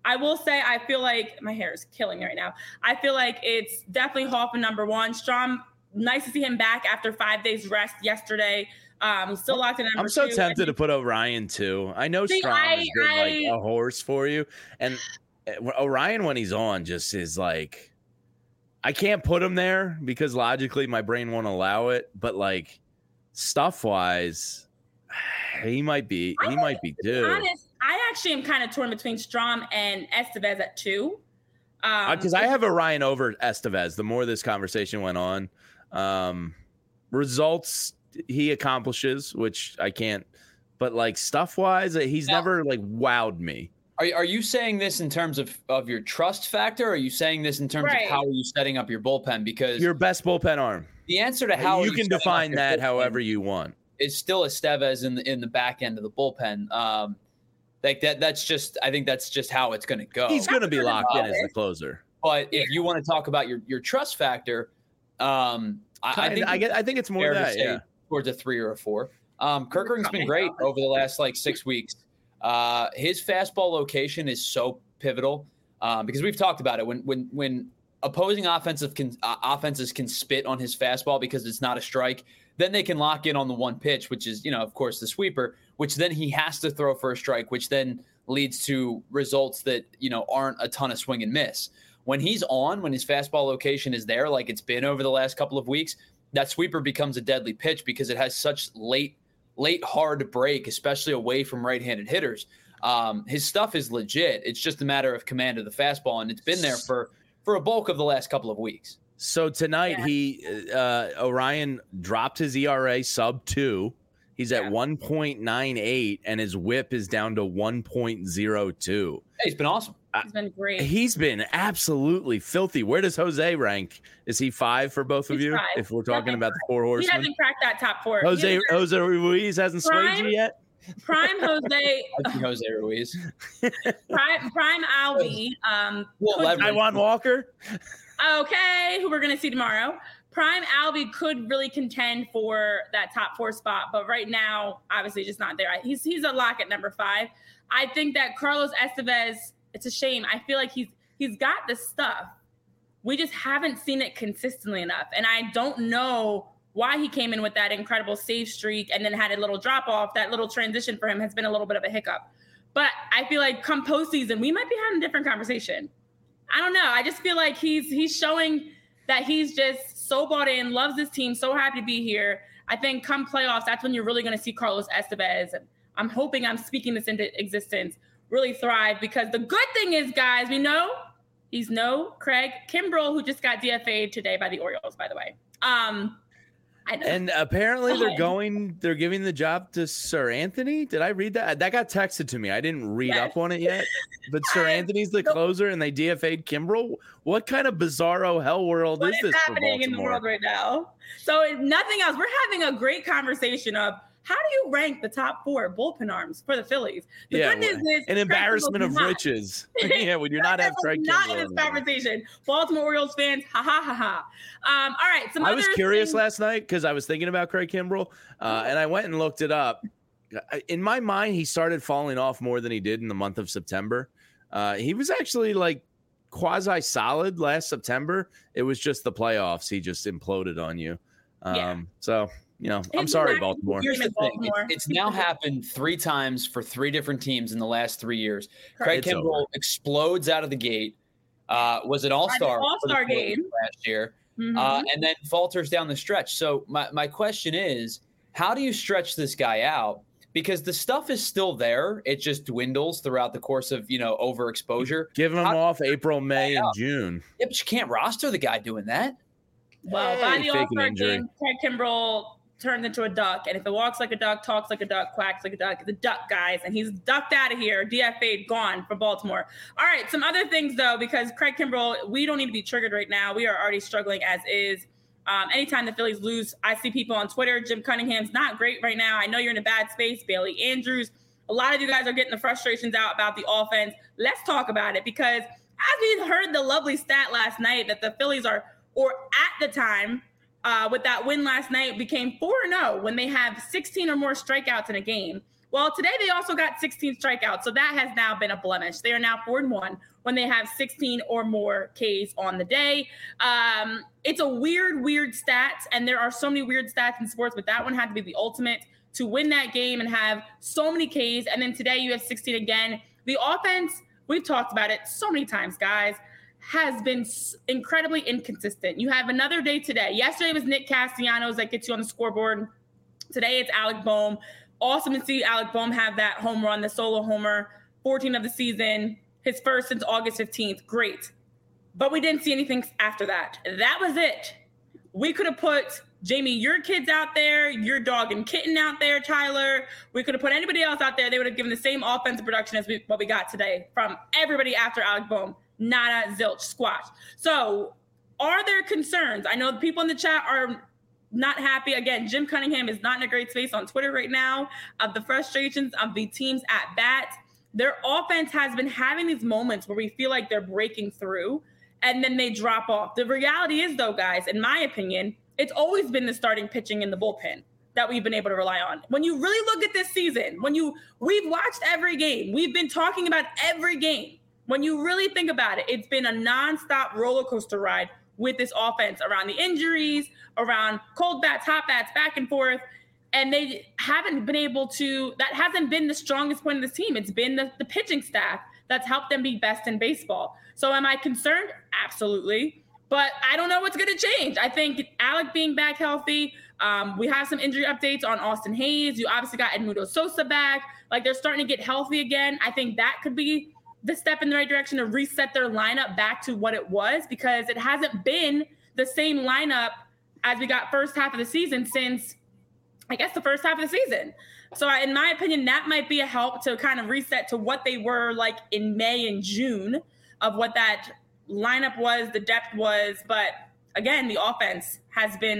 I will say I feel like my hair is killing me right now. I feel like it's definitely Hoffman number one. Strom, nice to see him back after 5 days rest yesterday. Still locked in number two. I'm so tempted to put Orion too. I know Strom has been like a horse for you, and Orion when he's on just is like, I can't put him there because logically my brain won't allow it, but like stuff wise, he might be due. Honest, I actually am kind of torn between Strom and Estevez at 2. Because I have Orion over Estevez. The more this conversation went on, results he accomplishes, which I can't, but like stuff wise, he's never like wowed me. Are you saying this in terms of your trust factor? Or are you saying this in terms of how are you setting up your bullpen? Because your best bullpen arm. The answer to how you can define that however you want. It's still Estevez in the back end of the bullpen. Like that's just, I think that's just how it's going to go. He's going to be locked in as the closer. But if you want to talk about your trust factor, I think it's more that, yeah, towards a 3 or a 4. Kerkering's been great over the last like 6 weeks. His fastball location is so pivotal because we've talked about it. When opposing offenses can spit on his fastball because it's not a strike, then they can lock in on the one pitch, which is, of course, the sweeper, which then he has to throw for a strike, which then leads to results that, aren't a ton of swing and miss. When he's on, when his fastball location is there, like it's been over the last couple of weeks, that sweeper becomes a deadly pitch because it has such late hard break, especially away from right-handed hitters. His stuff is legit. It's just a matter of command of the fastball, and it's been there for a bulk of the last couple of weeks. So tonight Orion dropped his ERA sub 2. He's at 1.98, and his WHIP is down to 1.02. He's been awesome. He's been great. He's been absolutely filthy. Where does Jose rank? Is he 5 for both of you? 5. If we're talking about the 4 horsemen, he hasn't cracked that top 4. Jose Ruiz hasn't swayed you yet. Prime Jose. Jose Ruiz. Prime Alvy. Taijuan Walker. Okay, who we're going to see tomorrow. Prime Alvy could really contend for that top 4 spot, but right now, obviously, just not there. He's a lock at number 5. I think that Carlos Estevez, it's a shame. I feel like he's got the stuff. We just haven't seen it consistently enough, and I don't know why he came in with that incredible save streak and then had a little drop off. That little transition for him has been a little bit of a hiccup. But I feel like come postseason, we might be having a different conversation. I don't know. I just feel like he's showing that he's just so bought in, loves this team, so happy to be here. I think come playoffs, that's when you're really going to see Carlos Estevez. And I'm hoping I'm speaking this into existence, really thrive, because the good thing is, guys, we know he's no Craig Kimbrell, who just got DFA'd today by the Orioles, by the way. And apparently they're giving the job to Sir Anthony. Did I read that? That got texted to me. I didn't read up on it yet. But Sir Anthony's the closer and they DFA'd Kimbrell. What kind of bizarro hell world is this happening in the world right now? So if nothing else, we're having a great conversation of how do you rank the top 4 bullpen arms for the Phillies? The good news is an embarrassment of riches. Yeah, when you're not have Craig not in this conversation. Baltimore Orioles fans, ha ha ha ha. All right, I was curious last night because I was thinking about Craig Kimbrell, and I went and looked it up. In my mind, he started falling off more than he did in the month of September. He was actually like quasi solid last September. It was just the playoffs. He just imploded on you. So. I'm sorry, Baltimore. Here's the thing. It's now happened 3 times for 3 different teams in the last 3 years. Craig Kimbrell explodes out of the gate, was an all-star game last year, and then falters down the stretch. So my question is, how do you stretch this guy out? Because the stuff is still there. It just dwindles throughout the course of, overexposure. Give him off April, May, and June. Yeah, but you can't roster the guy doing that. Well, by the all-star game, Craig Kimbrell turns into a duck, and if it walks like a duck, talks like a duck, quacks like a duck, it's a duck, guys, and he's ducked out of here, DFA'd, gone for Baltimore. All right, some other things, though, because Craig Kimbrell, we don't need to be triggered right now. We are already struggling as is. Anytime the Phillies lose, I see people on Twitter, Jim Cunningham's not great right now. I know you're in a bad space, Bailey Andrews. A lot of you guys are getting the frustrations out about the offense. Let's talk about it, because as we heard the lovely stat last night that the Phillies are, or at the time, with that win last night, became 4-0 when they have 16 or more strikeouts in a game. Well, today they also got 16 strikeouts, so that has now been a blemish. They are now 4-1 when they have 16 or more Ks on the day. It's a weird stat, and there are so many weird stats in sports, but that one had to be the ultimate to win that game and have so many Ks. And then today you have 16 again. The offense, we've talked about it so many times, guys, has been incredibly inconsistent. You have another day today. Yesterday was Nick Castellanos that gets you on the scoreboard. Today it's Alec Bohm. Awesome to see Alec Bohm have that home run, the solo homer, 14 of the season, his first since August 15th. Great. But we didn't see anything after that. That was it. We could have put Jamie, your kids out there, your dog and kitten out there, Tyler. We could have put anybody else out there. They would have given the same offensive production as what we got today from everybody after Alec Bohm. Nada, zilch, squash. So are there concerns? I know the people in the chat are not happy. Again, Jim Cunningham is not in a great space on Twitter right now of the frustrations of the teams at bat. Their offense has been having these moments where we feel like they're breaking through and then they drop off. The reality is, though, guys, in my opinion, it's always been the starting pitching in the bullpen that we've been able to rely on. When you really look at this season, we've watched every game, we've been talking about every game. When you really think about it, it's been a nonstop roller coaster ride with this offense around the injuries, around cold bats, hot bats, back and forth. And they haven't been able to, that hasn't been the strongest point of this team. It's been the pitching staff that's helped them be best in baseball. So am I concerned? Absolutely. But I don't know what's going to change. I think Alec being back healthy, we have some injury updates on Austin Hayes. You obviously got Edmundo Sosa back. Like, they're starting to get healthy again. I think that could be the step in the right direction to reset their lineup back to what it was, because it hasn't been the same lineup as we got first half of the season since, I guess, the first half of the season. So in my opinion, that might be a help to kind of reset to what they were like in May and June of what that lineup was, the depth was. But again, the offense has been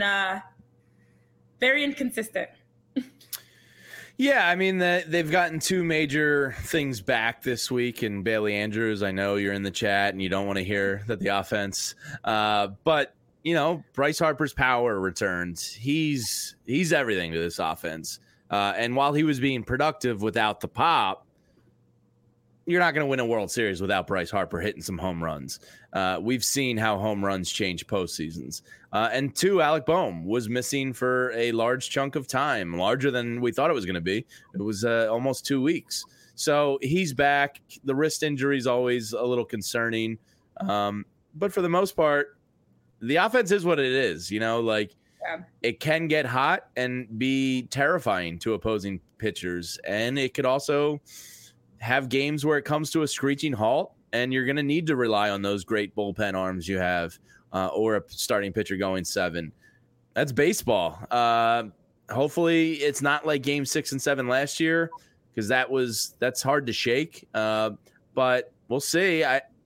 very inconsistent. Yeah, I mean, they've gotten two major things back this week in Bailey Andrews. I know you're in the chat and you don't want to hear that the offense, but you know, Bryce Harper's power returns. He's everything to this offense. And while he was being productive without the pop, you're not going to win a World Series without Bryce Harper hitting some home runs. We've seen how home runs change postseasons. And two, Alec Bohm was missing for a large chunk of time, larger than we thought it was going to be. It was almost 2 weeks. So he's back. The wrist injury is always a little concerning. But for the most part, the offense is what it is. You know, like, it can get hot and be terrifying to opposing pitchers. And it could also have games where it comes to a screeching halt, and you're going to need to rely on those great bullpen arms you have, or a starting pitcher going 7. That's baseball. Hopefully it's not like game 6 and 7 last year, because that's hard to shake. But we'll see.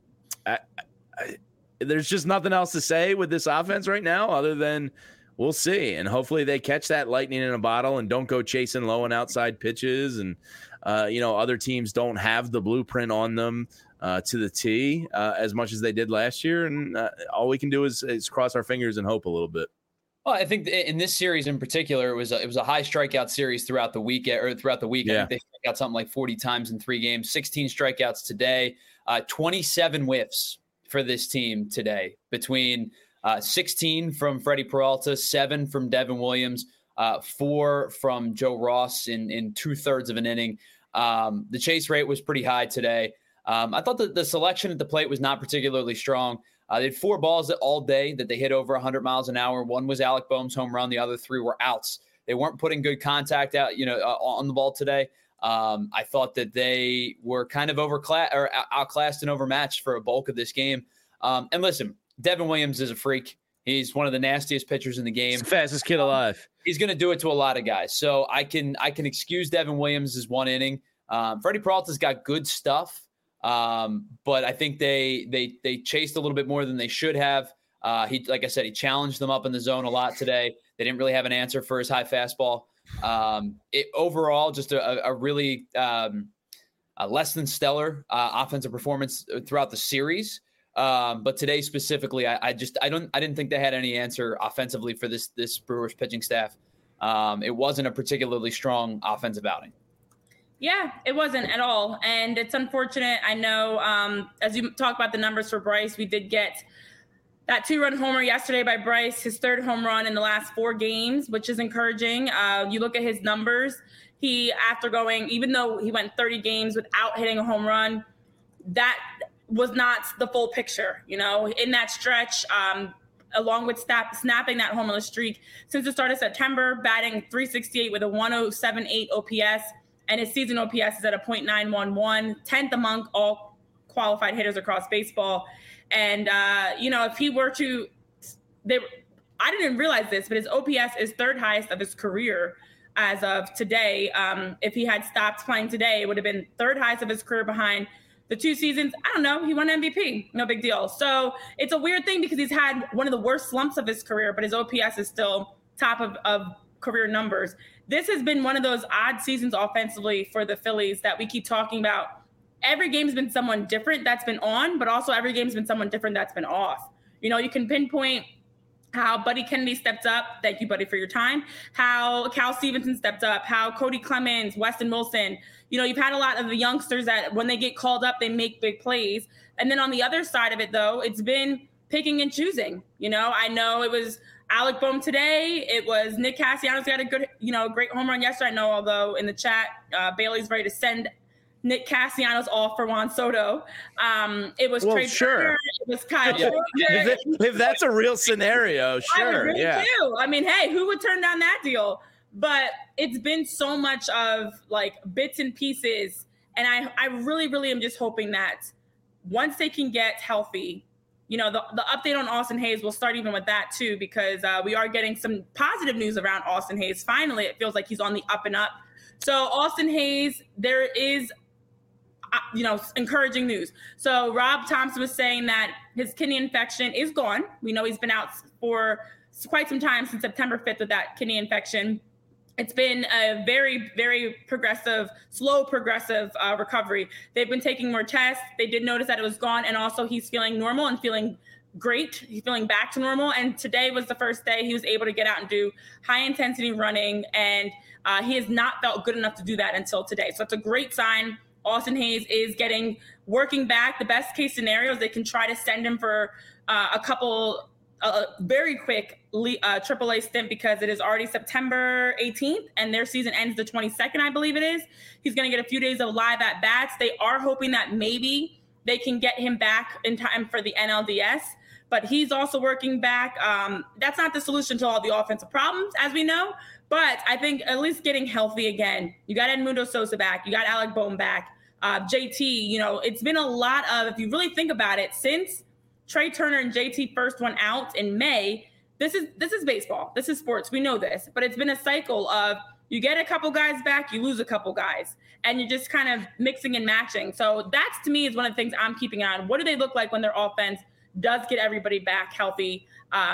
There's just nothing else to say with this offense right now other than we'll see. And hopefully they catch that lightning in a bottle and don't go chasing low and outside pitches. And, other teams don't have the blueprint on them to the T as much as they did last year. And all we can do is cross our fingers and hope a little bit. Well, I think in this series in particular, it was a high strikeout series throughout the week. Yeah. I think they struck out something like 40 times in 3 games, 16 strikeouts today, 27 whiffs for this team today, between 16 from Freddie Peralta, 7 from Devin Williams, 4 from Joe Ross in 2/3 of an inning. The chase rate was pretty high today. I thought that the selection at the plate was not particularly strong. They had 4 balls all day that they hit over 100 miles an hour. One was Alec Bohm's home run. The other 3 were outs. They weren't putting good contact out, on the ball today. I thought that they were kind of outclassed and overmatched for a bulk of this game. And listen, Devin Williams is a freak. He's one of the nastiest pitchers in the game. He's the fastest kid alive. He's going to do it to a lot of guys. So I can excuse Devin Williams' 1 inning. Freddie Peralta's got good stuff. But I think they chased a little bit more than they should have. Like I said, he challenged them up in the zone a lot today. They didn't really have an answer for his high fastball. Overall, just a really less than stellar offensive performance throughout the series. But today specifically, I didn't think they had any answer offensively for this Brewers pitching staff. It wasn't a particularly strong offensive outing. Yeah, it wasn't at all. And it's unfortunate. I know, as you talk about the numbers for Bryce, we did get that 2-run homer yesterday by Bryce, his 3rd home run in the last 4 games, which is encouraging. You look at his numbers, even though he went 30 games without hitting a home run, that was not the full picture. In that stretch, along with snapping that homerless streak, since the start of September, batting .368 with a 107.8 OPS, and his season OPS is at a .911, 10th among all qualified hitters across baseball. And, if he were to I didn't realize this, but his OPS is 3rd highest of his career as of today. If he had stopped playing today, it would have been 3rd highest of his career behind the 2 seasons. I don't know. He won MVP. No big deal. So it's a weird thing because he's had one of the worst slumps of his career, but his OPS is still top of career numbers. This has been one of those odd seasons offensively for the Phillies that we keep talking about. Every game's been someone different that's been on, but also every game's been someone different that's been off. You can pinpoint how Buddy Kennedy stepped up. Thank you, Buddy, for your time. How Cal Stevenson stepped up. How Cody Clemens, Weston Wilson. You've had a lot of the youngsters that when they get called up, they make big plays. And then on the other side of it, though, it's been picking and choosing. I know it was Alec Bohm today. It was Nick Castellanos got a good, great home run yesterday. I know, although in the chat, Bailey's ready to send Nick Castellanos off for Juan Soto. It was Trey Turner. It was Kyle Schwarber. If that's a real scenario, sure. I really do. I mean, hey, who would turn down that deal? But it's been so much of like bits and pieces. And I really, really am just hoping that once they can get healthy, the update on Austin Hayes will start even with that too, because we are getting some positive news around Austin Hayes. Finally, it feels like he's on the up and up. So Austin Hayes, there is encouraging news. So Rob Thompson was saying that his kidney infection is gone. We know he's been out for quite some time, since September 5th with that kidney infection. It's been a very, very slow progressive recovery. They've been taking more tests. They did notice that it was gone. And also he's feeling normal and feeling great. He's feeling back to normal. And today was the first day he was able to get out and do high intensity running. And he has not felt good enough to do that until today. So it's a great sign. Austin Hayes is working back. The best case scenario is they can try to send him for a very quick AAA stint, because it is already September 18th and their season ends the 22nd, I believe it is. He's going to get a few days of live at bats. They are hoping that maybe they can get him back in time for the NLDS, but he's also working back. That's not the solution to all the offensive problems, as we know. But I think at least getting healthy again. You got Edmundo Sosa back. You got Alec Bohm back. JT, it's been a lot of, if you really think about it, since Trey Turner and JT first went out in May, this is baseball. This is sports. We know this. But it's been a cycle of you get a couple guys back, you lose a couple guys. And you're just kind of mixing and matching. So that's, to me, is one of the things I'm keeping an eye on. What do they look like when their offense does get everybody back healthy?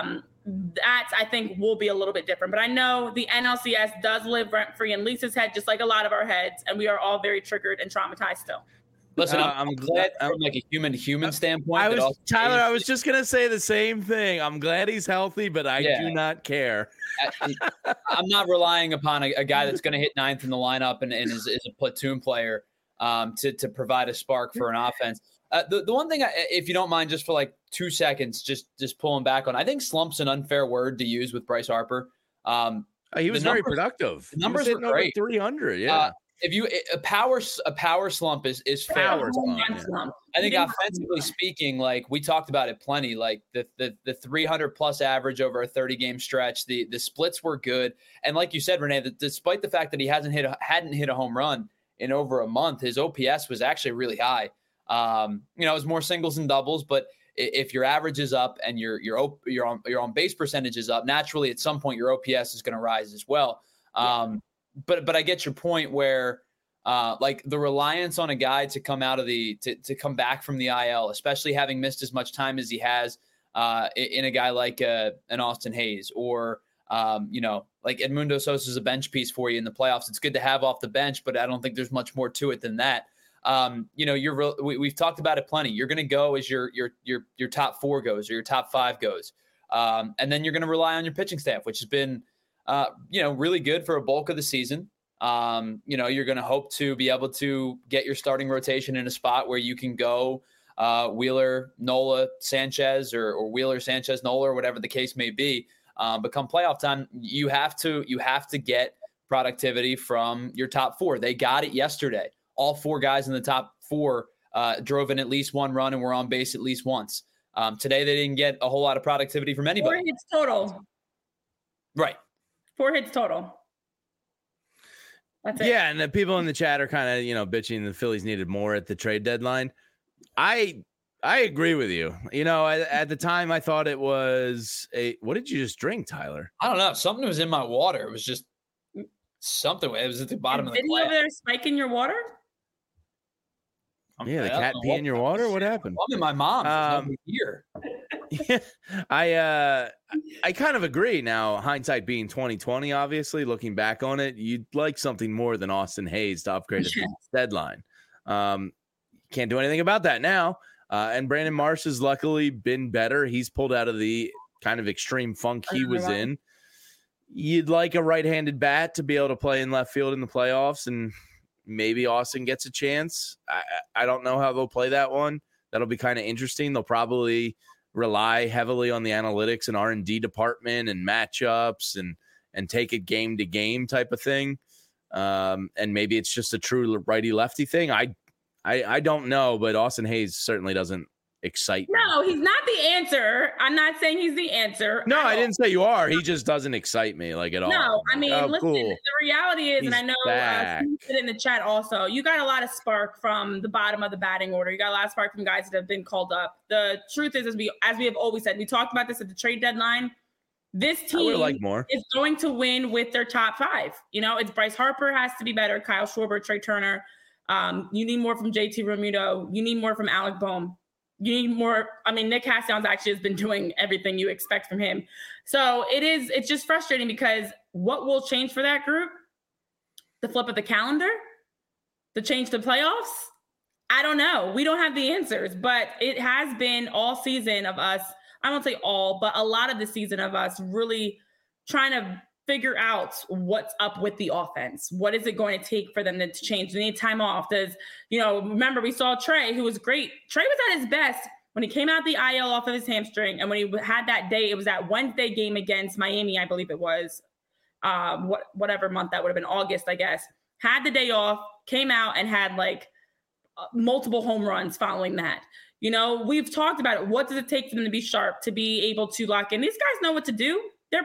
That, I think, will be a little bit different. But I know the NLCS does live rent-free in Lisa's head, just like a lot of our heads, and we are all very triggered and traumatized still. Listen, I'm glad from like a human standpoint. Tyler, I was just going to say the same thing. I'm glad he's healthy, but I do not care. I'm not relying upon a guy that's going to hit 9th in the lineup and is a platoon player to provide a spark for an offense. The one thing, if you don't mind, just for like 2 seconds, just pulling back on, I think slump's an unfair word to use with Bryce Harper. He was very productive. The numbers were great. 300, yeah. If you a power slump is fair. Slump. I think offensively speaking, like we talked about it plenty, like the 300 plus average over a 30 game stretch, the splits were good, and like you said, Renee, that despite the fact that he hadn't hit a home run in over a month, his OPS was actually really high. It was more singles than doubles, but if your average is up and your on base percentage is up, naturally at some point your OPS is going to rise as well. But I get your point where like the reliance on a guy to come out of to come back from the IL, especially having missed as much time as he has in a guy like an Austin Hayes or like Edmundo Sosa is a bench piece for you in the playoffs. It's good to have off the bench, but I don't think there's much more to it than that. We've talked about it plenty. You're going to go as your top 4 goes or your top 5 goes. And then you're going to rely on your pitching staff, which has been, really good for a bulk of the season. You're going to hope to be able to get your starting rotation in a spot where you can go Wheeler, Nola, Sanchez, or Wheeler, Sanchez, Nola, or whatever the case may be. But come playoff time, you have to get productivity from your top four. They got it yesterday. All four guys in the top four drove in at least one run and were on base at least once. Today, they didn't get a whole lot of productivity from anybody. 4 hits total. Right. 4 hits total. That's it. Yeah, and the people in the chat are kind of, bitching the Phillies needed more at the trade deadline. I agree with you. At the time, I thought it was what did you just drink, Tyler? I don't know. Something was in my water. It was just something. It was at the bottom of the glass. Over there spiking your water? Yeah, the cat pee in your water? What happened? I'm in my mom's here. Yeah, I kind of agree. Now, hindsight being 2020, obviously, looking back on it, you'd like something more than Austin Hayes to upgrade at the deadline. Can't do anything about that now. And Brandon Marsh has luckily been better. He's pulled out of the kind of extreme funk he was in. You'd like a right-handed bat to be able to play in left field in the playoffs, and maybe Austin gets a chance. I don't know how they'll play that one. That'll be kind of interesting. They'll probably rely heavily on the analytics and R&D department and matchups and take it game to game type of thing. And maybe it's just a true righty lefty thing. I don't know, but Austin Hayes certainly doesn't excite me. No, he's not the answer. I'm not saying he's the answer. No, I didn't say you are. He just doesn't excite me at all. No, I mean, listen, cool. The reality is, and I know you said in the chat also, you got a lot of spark from the bottom of the batting order. You got a lot of spark from guys that have been called up. The truth is, as we have always said, we talked about this at the trade deadline. This team is going to win with their top 5. It's Bryce Harper has to be better. Kyle Schwarber, Trey Turner. You need more from JT Realmuto. You need more from Alec Bohm. You need more. I mean, Nick Castellanos actually has been doing everything you expect from him. So it's just frustrating because what will change for that group? The flip of the calendar? The change to playoffs? I don't know. We don't have the answers, but it has been all season of us. I won't say all, but a lot of the season of us really trying to figure out what's up with the offense. What is it going to take for them to change? Do they need time off? Remember we saw Trey, who was great. Trey was at his best when he came out the IL off of his hamstring. And when he had that day, it was that Wednesday game against Miami, I believe it was, whatever month that would have been, August, I guess. Had the day off, came out and had multiple home runs following that. We've talked about it. What does it take for them to be sharp, to be able to lock in? These guys know what to do. They're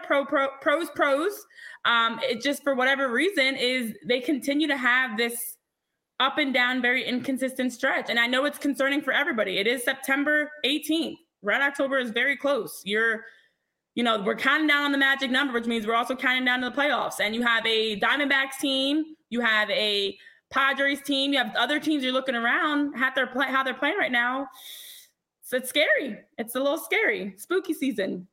pros. It just, for whatever reason, is they continue to have this up and down, very inconsistent stretch. And I know it's concerning for everybody. It is September 18th. Red October is very close. We're counting down on the magic number, which means we're also counting down to the playoffs. And you have a Diamondbacks team. You have a Padres team. You have other teams you're looking around how they're playing right now. So it's scary. It's a little scary. Spooky season.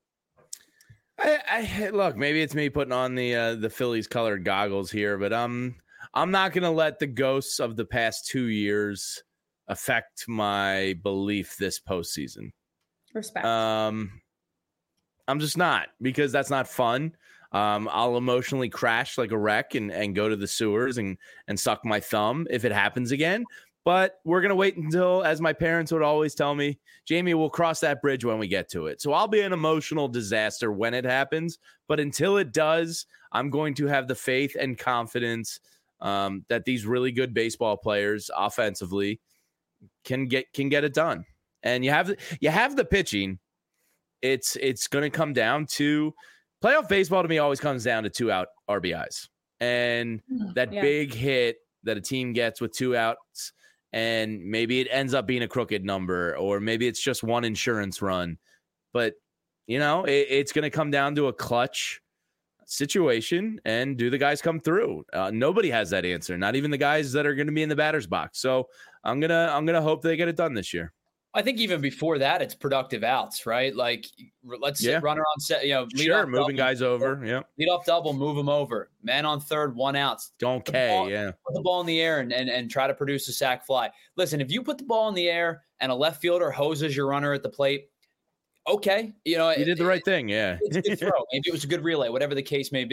I look, maybe it's me putting on the Phillies colored goggles here, but I'm not going to let the ghosts of the past 2 years affect my belief this postseason. Respect. I'm just not, because that's not fun. I'll emotionally crash like a wreck and go to the sewers and suck my thumb if it happens again. But we're going to wait until, as my parents would always tell me, Jamie, we'll cross that bridge when we get to it. So I'll be an emotional disaster when it happens. But until it does, I'm going to have the faith and confidence that these really good baseball players offensively can get it done. And you have the pitching. It's going to come down to playoff baseball. To me, always comes down to 2 out RBIs and that big hit that a team gets with 2 outs. And maybe it ends up being a crooked number, or maybe it's just one insurance run. But, it's going to come down to a clutch situation, and do the guys come through? Nobody has that answer, not even the guys that are going to be in the batter's box. So I'm gonna hope they get it done this year. I think even before that, it's productive outs, right? Let's say runner on set, lead off moving double, guys over. Yeah. Lead off double, move them over. Man on third, 1 out. Don't put the ball in the air and try to produce a sac fly. Listen, if you put the ball in the air and a left fielder hoses your runner at the plate, okay. You did the right thing. Yeah. It's a good throw. Maybe it was a good relay, whatever the case may be.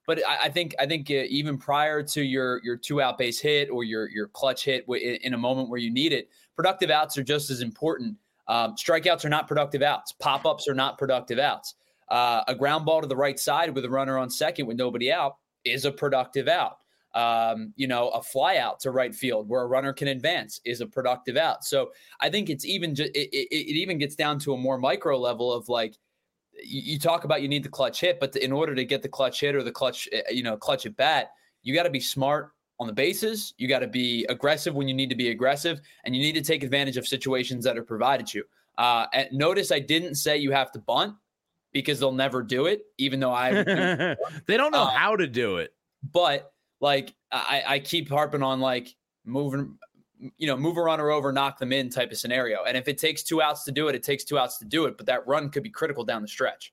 But I think even prior to your 2-out base hit or your clutch hit in a moment where you need it, productive outs are just as important. Strikeouts are not productive outs. Pop-ups are not productive outs. A ground ball to the right side with a runner on second with nobody out is a productive out. A fly out to right field where a runner can advance is a productive out. So I think it's even it even gets down to a more micro level of like, you talk about you need the clutch hit, but in order to get the clutch hit or the clutch at bat, you got to be smart on the bases. You got to be aggressive when you need to be aggressive, and you need to take advantage of situations that are provided you. And notice I didn't say you have to bunt because they'll never do it, even though they don't know how to do it. But like I keep harping on like move a runner over, knock them in type of scenario. And if it takes 2 outs to do it, it takes 2 outs to do it. But that run could be critical down the stretch.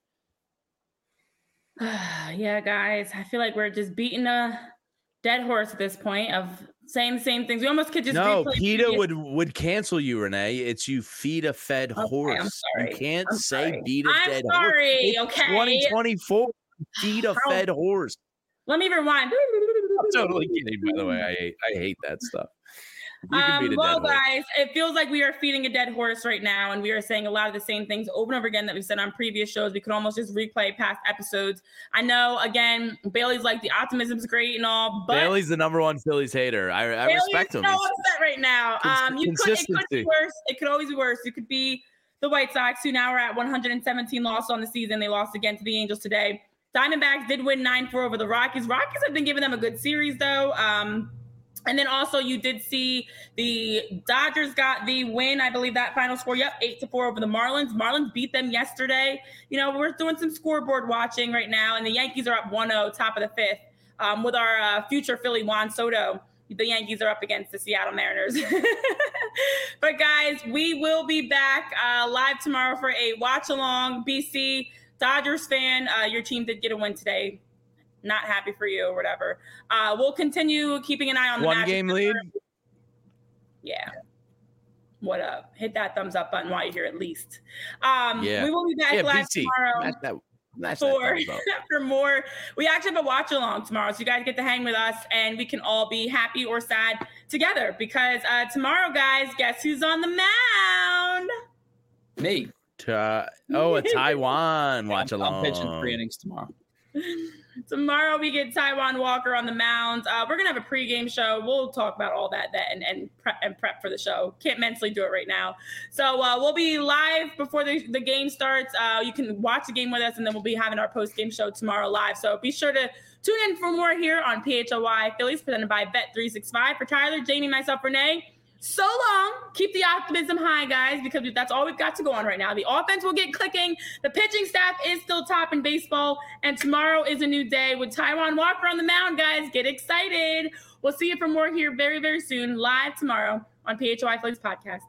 Yeah, guys, I feel like we're just beating a dead horse at this point of saying the same things. We almost could just PETA would cancel you, Renee. It's you feed a fed horse. I'm sorry. You can't say beat a dead horse. I'm sorry. It's okay. 2024. Feed a fed horse. Let me rewind. I'm totally kidding, by the way. I hate that stuff. Well, guys, it feels like we are feeding a dead horse right now, and we are saying a lot of the same things over and over again that we've said on previous shows. We could almost just replay past episodes. I know, again, Bailey's like, the optimism is great and all, but Bailey's the number one Phillies hater. I respect him. He's so upset right now. It could be worse. It could always be worse. It could be the White Sox, who now are at 117 losses on the season. They lost again to the Angels today. Diamondbacks did win 9-4 over the Rockies. Rockies have been giving them a good series, though. And then also you did see the Dodgers got the win. I believe that final score, 8-4 over the Marlins. Marlins beat them yesterday. We're doing some scoreboard watching right now, and the Yankees are up 1-0, top of the 5th, with our future Philly Juan Soto. The Yankees are up against the Seattle Mariners. But guys, we will be back live tomorrow for a watch along. BC Dodgers fan, your team did get a win today. Not happy for you or whatever. We'll continue keeping an eye on the one game lead. Yeah. What up? Hit that thumbs up button while you're here at least. We will be back live tomorrow for more. We actually have a watch along tomorrow, so you guys get to hang with us, and we can all be happy or sad together because tomorrow, guys, guess who's on the mound? Me. A Taijuan watch along. I'm pitching 3 innings tomorrow. Tomorrow we get Taijuan Walker on the mound. We're gonna have a pregame show. We'll talk about all that and prep for the show. Can't mentally do it right now. So we'll be live before the game starts. You can watch the game with us, and then we'll be having our post-game show tomorrow live. So be sure to tune in for more here on PHLY Phillies, presented by Bet365. For Tyler, Jamie, myself, Renee. So long. Keep the optimism high, guys, because that's all we've got to go on right now. The offense will get clicking. The pitching staff is still top in baseball. And tomorrow is a new day with Taijuan Walker on the mound, guys. Get excited. We'll see you for more here very, very soon, live tomorrow on PHLY Phillies Podcast.